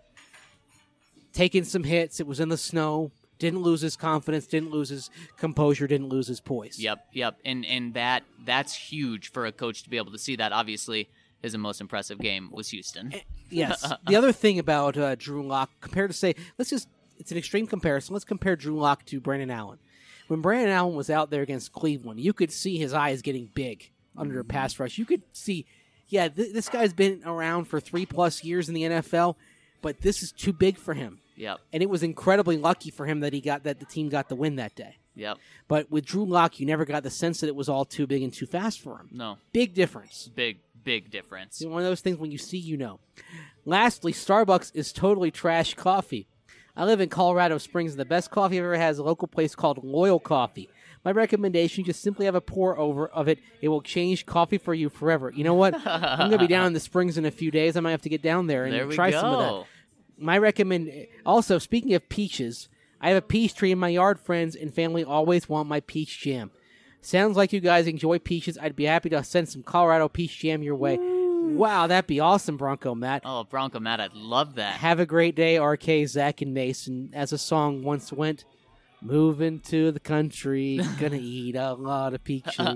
Taking some hits. It was in the snow. Didn't lose his confidence. Didn't lose his composure. Didn't lose his poise. Yep, yep. And and that that's huge for a coach to be able to see that. Obviously, his most impressive game was Houston. Yes. The other thing about uh, Drew Lock, compared to say, let's just, it's an extreme comparison. Let's compare Drew Lock to Brandon Allen. When Brandon Allen was out there against Cleveland, you could see his eyes getting big under a pass rush. You could see, yeah, th- this guy's been around for three plus years in the N F L, but this is too big for him. Yep, And it was incredibly lucky for him that he got that the team got the win that day. yep. But with Drew Lock, you never got the sense that it was all too big and too fast for him. No, Big difference. big big difference. It's one of those things when you see, you know. Lastly, Starbucks is totally trash coffee. I live in Colorado Springs, and the best coffee I've ever had is a local place called Loyal Coffee. My recommendation, just simply have a pour over of it. It will change coffee for you forever. You know what? I'm going to be down in the Springs in a few days. I might have to get down there and There we try go. some of that. My recommend. Also, speaking of peaches, I have a peach tree in my yard. Friends and family always want my peach jam. Sounds like you guys enjoy peaches. I'd be happy to send some Colorado peach jam your way. Wow, that'd be awesome, Bronco Matt. Oh, Bronco Matt, I'd love that. Have a great day, R K, Zach, and Mason. As a song once went, moving to the country, gonna eat a lot of peaches.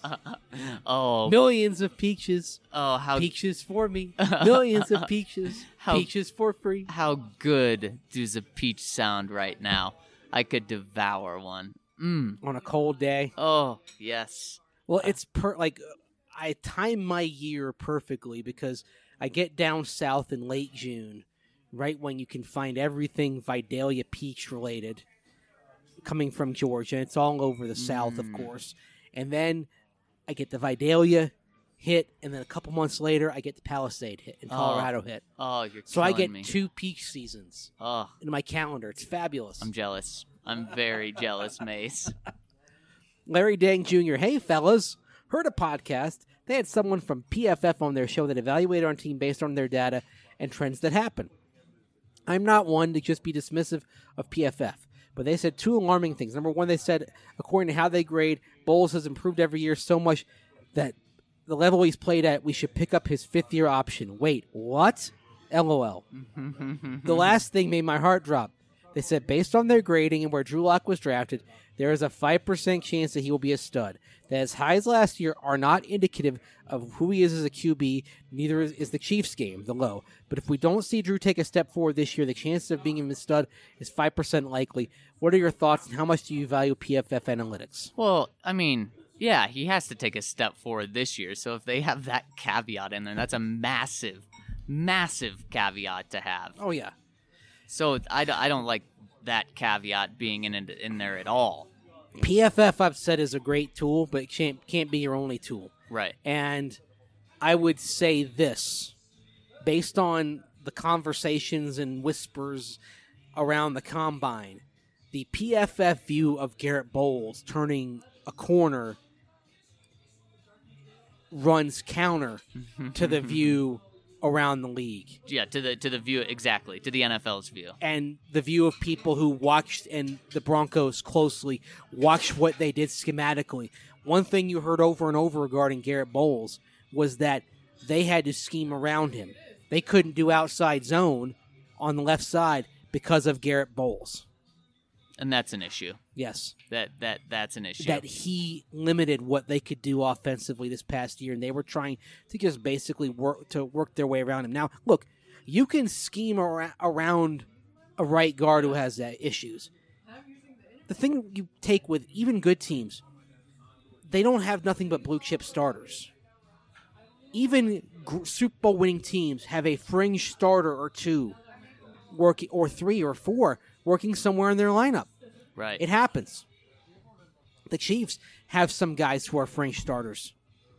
oh, Millions of peaches. oh, how Peaches for me. Millions of peaches. How- Peaches for free. how good does a peach sound right now? I could devour one. Mm. On a cold day. Oh, yes. Well, it's per like I time my year perfectly because I get down south in late June, right when you can find everything Vidalia peach related coming from Georgia. It's all over the south, of Mm. course. And then I get the Vidalia hit, and then a couple months later I get the Palisade hit and Oh. Colorado hit. Oh, you're So I killing get me. two peach seasons Oh, in my calendar. It's fabulous. I'm jealous. I'm very jealous, Mace. Larry Dang Junior Hey, fellas. Heard a podcast. They had someone from P F F on their show that evaluated our team based on their data and trends that happen. I'm not one to just be dismissive of P F F, but they said two alarming things. Number one, they said, according to how they grade, Bowles has improved every year so much that the level he's played at, we should pick up his fifth-year option. Wait, what? LOL. The last thing made my heart drop. They said based on their grading and where Drew Lock was drafted, there is a five percent chance that he will be a stud. That as high as last year are not indicative of who he is as a Q B, neither is, is the Chiefs game, the low. But if we don't see Drew take a step forward this year, the chance of being a stud is five percent likely. What are your thoughts, and how much do you value P F F analytics? Well, I mean, yeah, he has to take a step forward this year. So if they have that caveat in there, that's a massive, massive caveat to have. Oh, yeah. So I, I don't like that caveat being in in there at all. P F F, I've said, is a great tool, but it can't, can't be your only tool. Right. And I would say this, based on the conversations and whispers around the combine, the P F F view of Garrett Bowles turning a corner runs counter to the view around the league. Yeah, to the to the view, exactly, to the N F L's view. And the view of people who watched and the Broncos closely, watched what they did schematically. One thing you heard over and over regarding Garrett Bowles was that they had to scheme around him. They couldn't do outside zone on the left side because of Garrett Bowles. And that's an issue. Yes. That that that's an issue. That he limited what they could do offensively this past year, and they were trying to just basically work to work their way around him. Now, look, you can scheme ar- around a right guard who has that issues. The thing you take with even good teams, they don't have nothing but blue chip starters. Even gr- Super Bowl winning teams have a fringe starter or two, working or three or four working somewhere in their lineup. Right. It happens. The Chiefs have some guys who are fringe starters.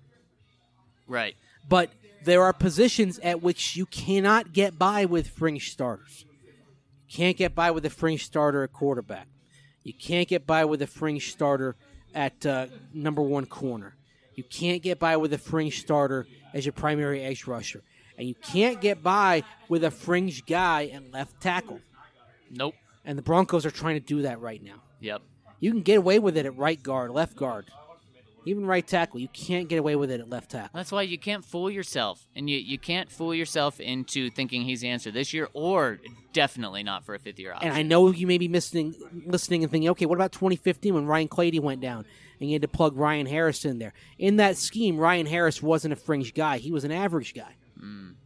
Right. But there are positions at which you cannot get by with fringe starters. You can't get by with a fringe starter at quarterback. You can't get by with a fringe starter at uh, number one corner. You can't get by with a fringe starter as your primary edge rusher. And you can't get by with a fringe guy at left tackle. Nope. And the Broncos are trying to do that right now. Yep. You can get away with it at right guard, left guard, even right tackle. You can't get away with it at left tackle. That's why you can't fool yourself. And you, you can't fool yourself into thinking he's the answer this year, or definitely not for a fifth-year option. And I know you may be missing, listening and thinking, okay, what about twenty fifteen when Ryan Clady went down and you had to plug Ryan Harris in there? In that scheme, Ryan Harris wasn't a fringe guy. He was an average guy. Mm.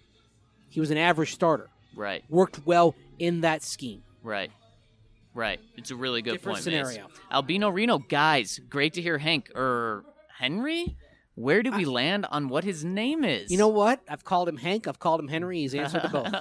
He was an average starter. Right. Worked well in that scheme. Right. Right. It's a really good Different point, scenario. Mace. Albino Reno, guys, great to hear Hank, or Henry? Where did we I, land on what his name is? You know what? I've called him Hank. I've called him Henry. He's answered to both.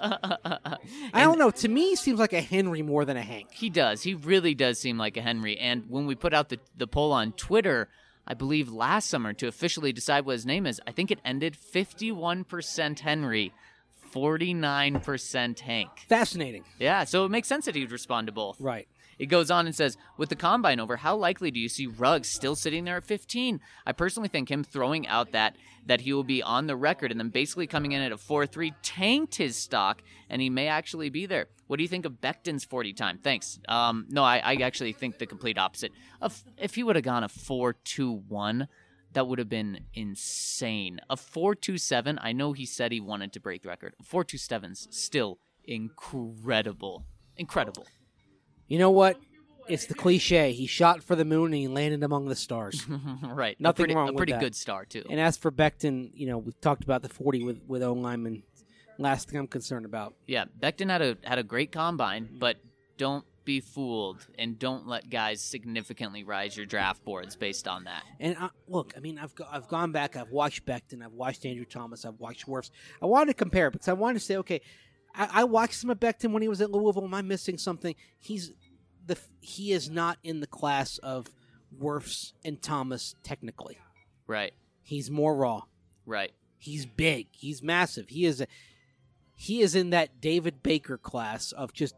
I don't know. To me, he seems like a Henry more than a Hank. He does. He really does seem like a Henry. And when we put out the, the poll on Twitter, I believe last summer, to officially decide what his name is, I think it ended fifty-one percent Henry, forty-nine percent Hank. Fascinating. Yeah, so it makes sense that he would respond to both. Right. It goes on and says, with the combine over, how likely do you see Ruggs still sitting there at fifteen? I personally think him throwing out that that he will be on the record and then basically coming in at a four three tanked his stock, and he may actually be there. What do you think of Becton's forty time? Thanks. Um, no, I, I actually think the complete opposite. If, if he would have gone a four two one, that would have been insane. A four two seven, I know he said he wanted to break the record. four two seven's still incredible. Incredible. You know what? It's the cliche. He shot for the moon and he landed among the stars. Right. Nothing a pretty, wrong a with pretty that. good star, too. And as for Becton, you know, we've talked about the forty with, with O-lineman. Last thing I'm concerned about. Yeah, Becton had a had a great combine, but don't be fooled and don't let guys significantly rise your draft boards based on that. And uh, look, I mean, I've go, I've gone back. I've watched Becton. I've watched Andrew Thomas. I've watched Wirfs. I wanted to compare because I wanted to say, okay, I, I watched some of Becton when he was at Louisville. Am I missing something? He's the he is not in the class of Wirfs and Thomas technically. Right. He's more raw. Right. He's big. He's massive. He is a, he is in that David Baker class of just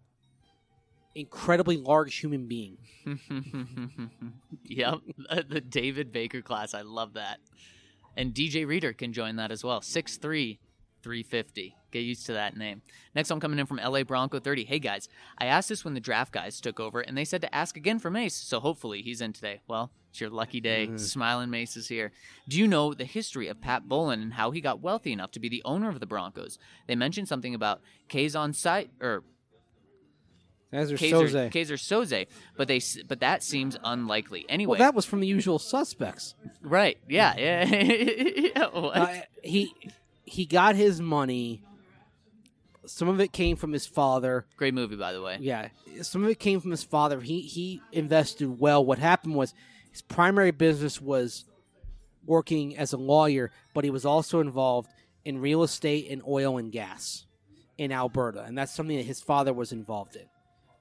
incredibly large human being. Yep, the David Baker class. I love that. And D J Reader can join that as well. six three, three fifty. Get used to that name. Next one coming in from L A Bronco thirty. Hey, guys. I asked this when the draft guys took over, and they said to ask again for Mace, so hopefully he's in today. Well, it's your lucky day. Mm. Smiling Mace is here. Do you know the history of Pat Bowlen and how he got wealthy enough to be the owner of the Broncos? They mentioned something about K's on site, or Kaiser Kaiser, Soze. Kaiser Soze, but they s- but that seems unlikely. Anyway, Well, that was from The Usual Suspects. right? Yeah, yeah. yeah what? Uh, he he got his money. Some of it came from his father. Great movie, by the way. Yeah, some of it came from his father. He he invested well. What happened was his primary business was working as a lawyer, but he was also involved in real estate and oil and gas in Alberta, and that's something that his father was involved in.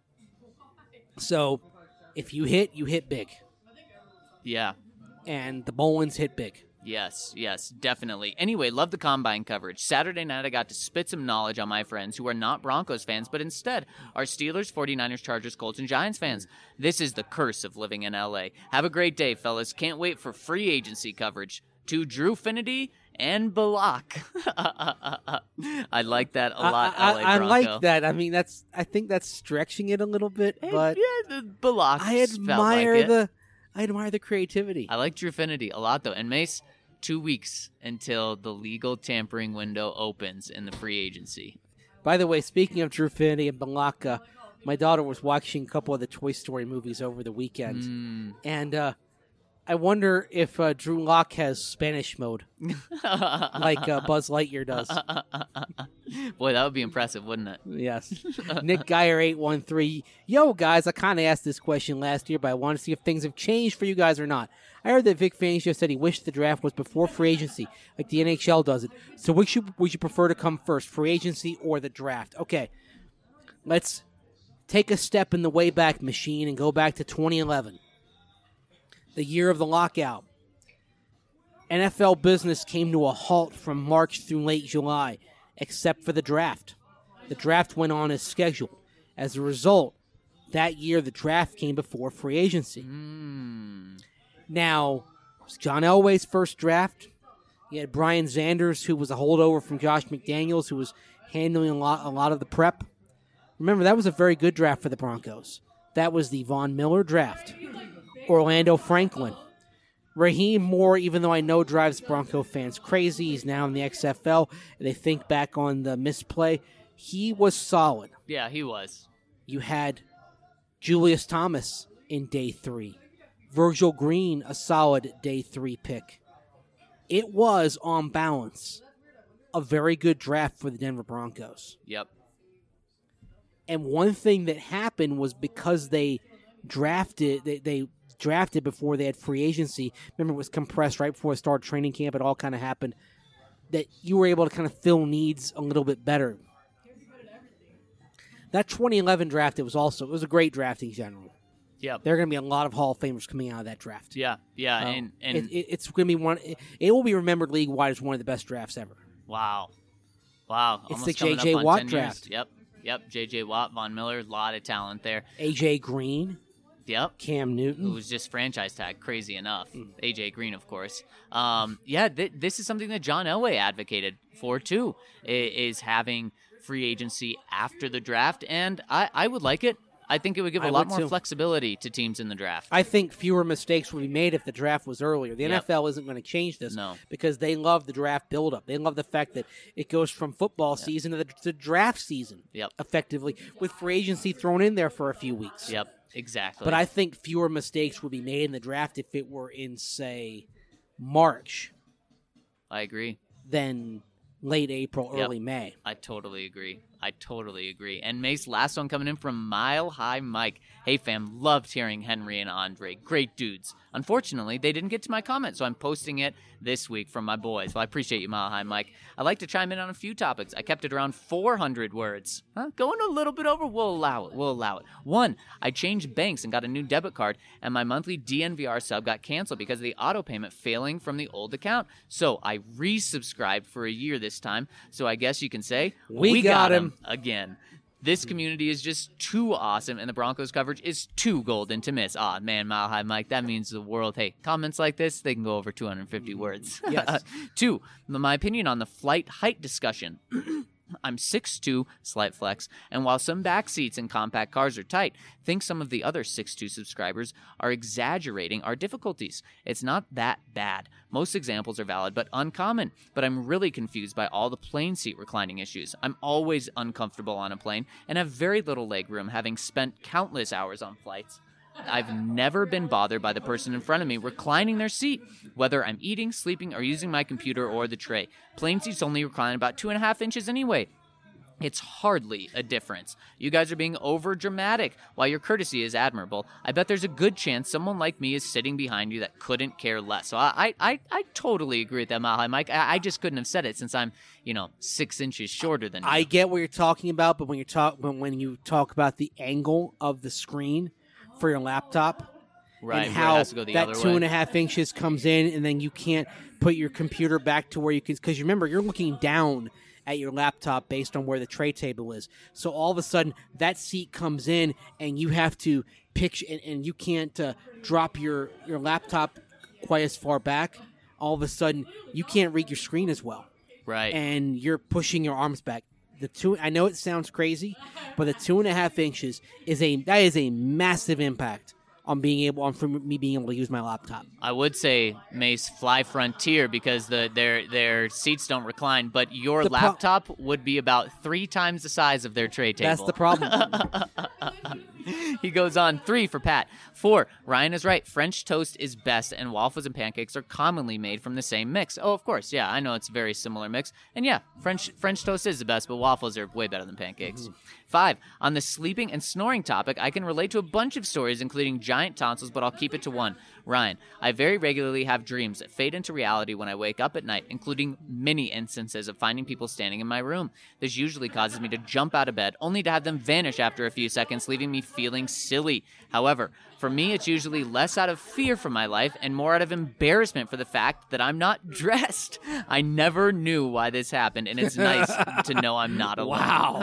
So, if you hit, you hit big, Yeah. and the Bolins hit big. Yes, yes, definitely. Anyway, love the Combine coverage. Saturday night, I got to spit some knowledge on my friends who are not Broncos fans, but instead are Steelers, 49ers, Chargers, Colts, and Giants fans. This is the curse of living in L A. Have a great day, fellas. Can't wait for free agency coverage. To Drew Finity and Balak. I like that a lot, I, L A I, I Bronco. like that. I mean, that's I think that's stretching it a little bit, Hey, but yeah, the Balak I felt admire like it. the I admire the creativity. I like Drew Finity a lot, though. And Mace, two weeks until the legal tampering window opens in the free agency. By the way, speaking of Drew Finity and Balaka, my daughter was watching a couple of the Toy Story movies over the weekend, Mm. and uh, I wonder if uh, Drew Lock has Spanish mode, like uh, Buzz Lightyear does. Boy, that would be impressive, wouldn't it? Yes. Nick Geyer eight one three. Yo, guys, I kind of asked this question last year, but I want to see if things have changed for you guys or not. I heard that Vic Fangio said he wished the draft was before free agency, like the N H L does it. So which should, would you prefer to come first, free agency or the draft? Okay, let's take a step in the Wayback Machine and go back to twenty eleven, the year of the lockout. N F L business came to a halt from March through late July, except for the draft. The draft went on as scheduled. As a result, that year the draft came before free agency. Mm. Now, it was John Elway's first draft. You had Brian Zanders, who was a holdover from Josh McDaniels, who was handling a lot, a lot of the prep. Remember, that was a very good draft for the Broncos. That was the Von Miller draft. Orlando Franklin. Raheem Moore, even though I know drives Bronco fans crazy, he's now in the X F L, and they think back on the misplay. He was solid. Yeah, he was. You had Julius Thomas in day three. Virgil Green, a solid day three pick. It was, on balance, a very good draft for the Denver Broncos. Yep. And one thing that happened was because they drafted, they, they drafted before they had free agency. Remember, it was compressed right before the start of training camp. It all kind of happened. That you were able to kind of fill needs a little bit better. That twenty eleven draft, it was also it was a great draft in general. Yep. There are going to be a lot of Hall of Famers coming out of that draft. Yeah, yeah, Um, and, and it, it, it's going to be one. It, it will be remembered league wide as one of the best drafts ever. wow. Wow. It's almost the coming J J up on Watt ten draft. Years. Yep. Yep. J J Watt, Von Miller, a lot of talent there. A J Green, Yep. Cam Who Newton. was just franchise tag, crazy enough. Mm. A J Green, of course. Um, yeah, th- this is something that John Elway advocated for too, i- is having free agency after the draft, and I, I would like it. I think it would give a I lot would more too. flexibility to teams in the draft. I think fewer mistakes would be made if the draft was earlier. The Yep. N F L isn't going to change this No. because they love the draft buildup. They love the fact that it goes from football season to the to draft season, Yep. effectively, with free agency thrown in there for a few weeks. Yep, exactly. But I think fewer mistakes would be made in the draft if it were in, say, March I agree. than late April, Yep. early May. I totally agree. I totally agree. And Mace, last one coming in from Mile High Mike. Hey fam, loved hearing Henry and Andre. Great dudes. Unfortunately, they didn't get to my comment, so I'm posting it this week from my boys. Well, I appreciate you, Mile High Mike. I'd like to chime in on a few topics. I kept it around four hundred words. Huh? Going a little bit over, we'll allow it. We'll allow it. One, I changed banks and got a new debit card, and my monthly D N V R sub got canceled because of the auto payment failing from the old account. So I resubscribed for a year this time, so I guess you can say, We got him. again. This community is just too awesome, and the Broncos coverage is too golden to miss. Ah, man, Mile High Mike, that means the world. Hey, comments like this, they can go over two hundred fifty words. Yes. Two, my opinion on the flight height discussion. I'm six two, slight flex, and while some back seats in compact cars are tight, think some of the other six two subscribers are exaggerating our difficulties. It's not that bad. Most examples are valid but uncommon, but I'm really confused by all the plane seat reclining issues. I'm always uncomfortable on a plane and have very little leg room, having spent countless hours on flights. I've never been bothered by the person in front of me reclining their seat, whether I'm eating, sleeping, or using my computer or the tray. Plane seats only recline about two and a half inches anyway. It's hardly a difference. You guys are being over dramatic. While your courtesy is admirable, I bet there's a good chance someone like me is sitting behind you that couldn't care less. So I I, I totally agree with that, Mile High Mike. I, I just couldn't have said it since I'm, you know, six inches shorter than you. I get what you're talking about, but when you talk when, when you talk about the angle of the screen for your laptop, right, and where it how has to go the that other two way. and a half inches comes in, and then you can't put your computer back to where you can, because remember, you're looking down at your laptop based on where the tray table is. So all of a sudden, that seat comes in, and you have to picture, and, and you can't uh, drop your, your laptop quite as far back. All of a sudden, you can't read your screen as well. Right. And you're pushing your arms back. The two, I know it sounds crazy, but the two and a half inches is a that is a massive impact on being able on for me being able to use my laptop. I would say, Mace, fly Frontier because the their their seats don't recline, but your The pro- laptop would be about three times the size of their tray table. That's the problem. He goes on. Three for Pat. Four, Ryan is right. French toast is best, and waffles and pancakes are commonly made from the same mix. Oh, of course. Yeah, I know it's a very similar mix. And yeah, French French toast is the best, but waffles are way better than pancakes. Mm-hmm. Five, on the sleeping and snoring topic, I can relate to a bunch of stories, including giant tonsils, but I'll keep it to one. Ryan, I very regularly have dreams that fade into reality when I wake up at night, including many instances of finding people standing in my room. This usually causes me to jump out of bed, only to have them vanish after a few seconds, leaving me feeling silly. However, for me, it's usually less out of fear for my life and more out of embarrassment for the fact that I'm not dressed. I never knew why this happened, and it's nice to know I'm not alone. Wow.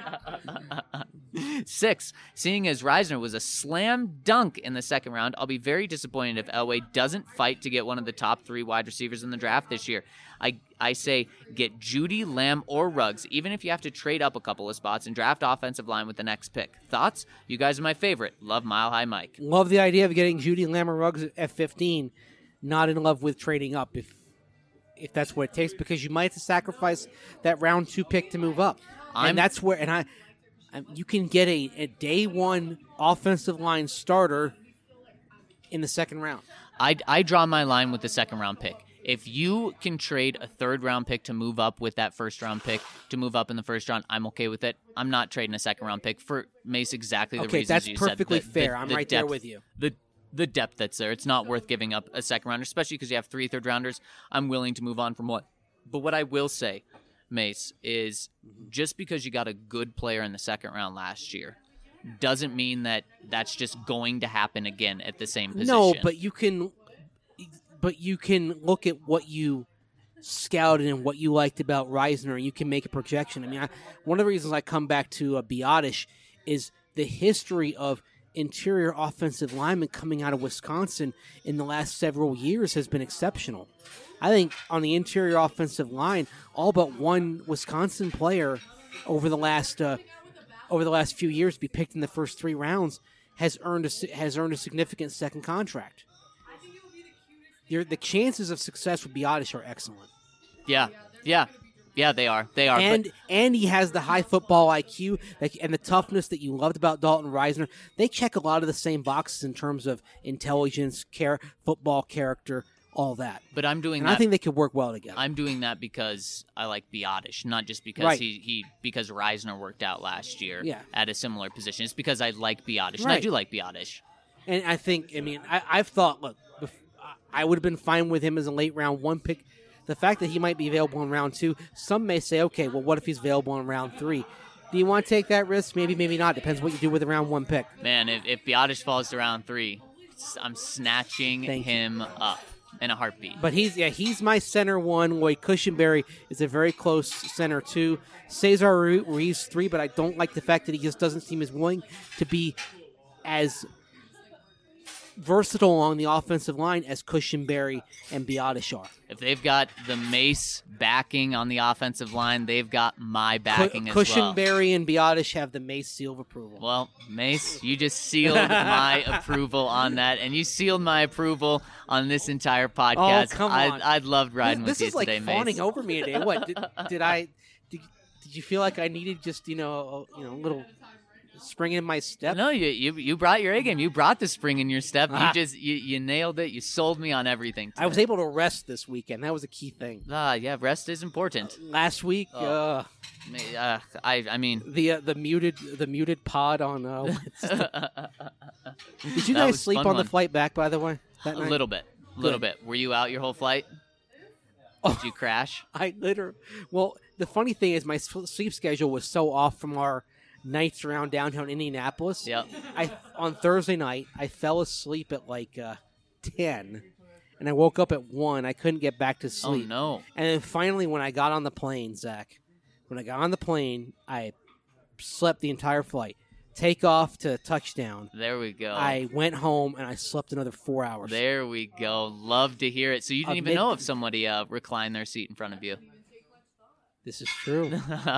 Six, seeing as Reisner was a slam dunk in the second round, I'll be very disappointed if Elway doesn't fight to get one of the top three wide receivers in the draft this year. I I say get Judy, Lamb, or Ruggs, even if you have to trade up a couple of spots and draft offensive line with the next pick. Thoughts? You guys are my favorite. Love Mile High Mike. Love the idea of getting Judy, Lamb, or Ruggs at fifteen. Not in love with trading up if if that's what it takes, because you might have to sacrifice that round two pick to move up. I'm, and that's where, and I, I, you can get a, a day one offensive line starter in the second round. I, I draw my line with the second round pick. If you can trade a third round pick to move up with that first round pick to move up in the first round, I'm okay with it. I'm not trading a second round pick for Mace exactly the okay, reasons that's you perfectly said. The, fair. the, I'm the right depth, there with you. The the depth that's there, it's not worth giving up a second rounder, especially because you have three third rounders. I'm willing to move on from what. But what I will say, Mace, is just because you got a good player in the second round last year doesn't mean that that's just going to happen again at the same position. No, but you can, but you can look at what you scouted and what you liked about Reisner, and you can make a projection. I mean, I, one of the reasons I come back to uh, Biotish is the history of interior offensive linemen coming out of Wisconsin in the last several years has been exceptional. I think on the interior offensive line, all but one Wisconsin player over the last uh, over the last few years to be picked in the first three rounds has earned a, has earned a significant second contract. Your, the chances of success with Biotish are excellent. Yeah, yeah, yeah, they are. They are. And but and he has the high football I Q that, and the toughness that you loved about Dalton Reisner. They check a lot of the same boxes in terms of intelligence, care, football character, all that. But I'm doing and that. I think they could work well together. I'm doing that because I like Biotish, not just because Right. he, he because Reisner worked out last year Yeah. at a similar position. It's because I like Biotish, and I Right. do like Biotish. And I think, I mean, I, I've thought, look, bef- I would have been fine with him as a late round one pick. The fact that he might be available in round two, some may say, okay, well, what if he's available in round three? Do you want to take that risk? Maybe, maybe not. Depends what you do with a round one pick. Man, if, if Biotish falls to round three, s- I'm snatching Thank you. him up in a heartbeat. But he's yeah, he's my center one. Lloyd Cushenberry is a very close center two. Cesar Ruiz three, but I don't like the fact that he just doesn't seem as willing to be as versatile along the offensive line as Cushenberry and Biotish are. If they've got the Mace backing on the offensive line, they've got my backing Cu- as well. Cushenberry and Biotish have the Mace seal of approval. Well, Mace, you just sealed my approval on that, and you sealed my approval on this entire podcast. Oh, come on. I, I'd loved riding this, with this you is today, like Mace. fawning over me today. What did, did I? Did, did you feel like I needed just you know a, you know a little spring in my step? No, you, you you brought your A game. You brought the spring in your step. Ah. You just you, you nailed it. You sold me on everything. I was able to rest this weekend. That was a key thing. Ah, yeah, rest is important. Last week, Oh. uh, Uh, I I mean, the uh, the muted the muted pod on. Uh, Wednesday. Did you That guys was sleep fun on one. the flight back? By the way, that a night? little bit, a little Good. bit. Were you out your whole flight? Oh. Did you crash? I literally. Well, the funny thing is, my s- sleep schedule was so off from our nights around downtown Indianapolis. Yep. I on Thursday night I fell asleep at like uh, ten, and I woke up at one. I couldn't get back to Oh sleep. no. And then finally, when I got on the plane, Zach, when I got on the plane, I slept the entire flight. Take off to touchdown. There we go. I went home and I slept another four hours. There we go. Love to hear it. So you didn't Uh, even mid- know if somebody uh, reclined their seat in front of you. This is true.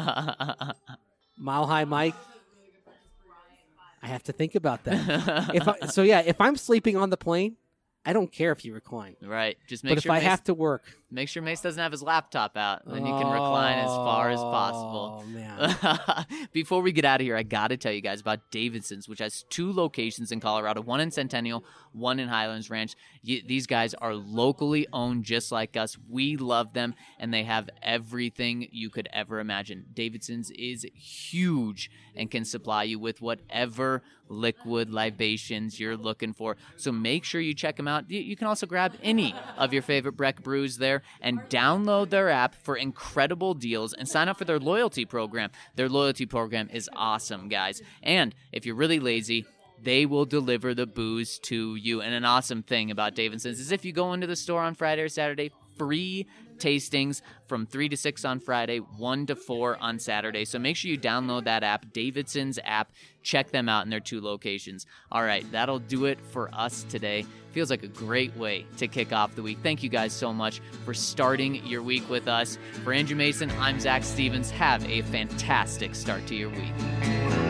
Mile High Mike. I have to think about that. if I, so, yeah, if I'm sleeping on the plane, I don't care if you recline. Right. Just make But if sure I Mace, have to work, make sure Mace doesn't have his laptop out. Then you can recline as far as possible. Oh man! Before we get out of here, I got to tell you guys about Davidson's, which has two locations in Colorado, one in Centennial, one in Highlands Ranch. Y- these guys are locally owned just like us. We love them, and they have everything you could ever imagine. Davidson's is huge and can supply you with whatever liquid libations you're looking for. So make sure you check them out. You, you can also grab any of your favorite Breck brews there and download their app for incredible deals and sign up for their loyalty program. Their loyalty program is awesome, guys. And if you're really lazy, they will deliver the booze to you. And an awesome thing about Davidson's is if you go into the store on Friday or Saturday, free tastings from three to six on Friday, one to four on Saturday. So make sure you download that app, Davidson's app. Check them out in their two locations. All right, that'll do it for us today. Feels like a great way to kick off the week. Thank you guys so much for starting your week with us. For Andrew Mason, I'm Zach Stevens. Have a fantastic start to your week.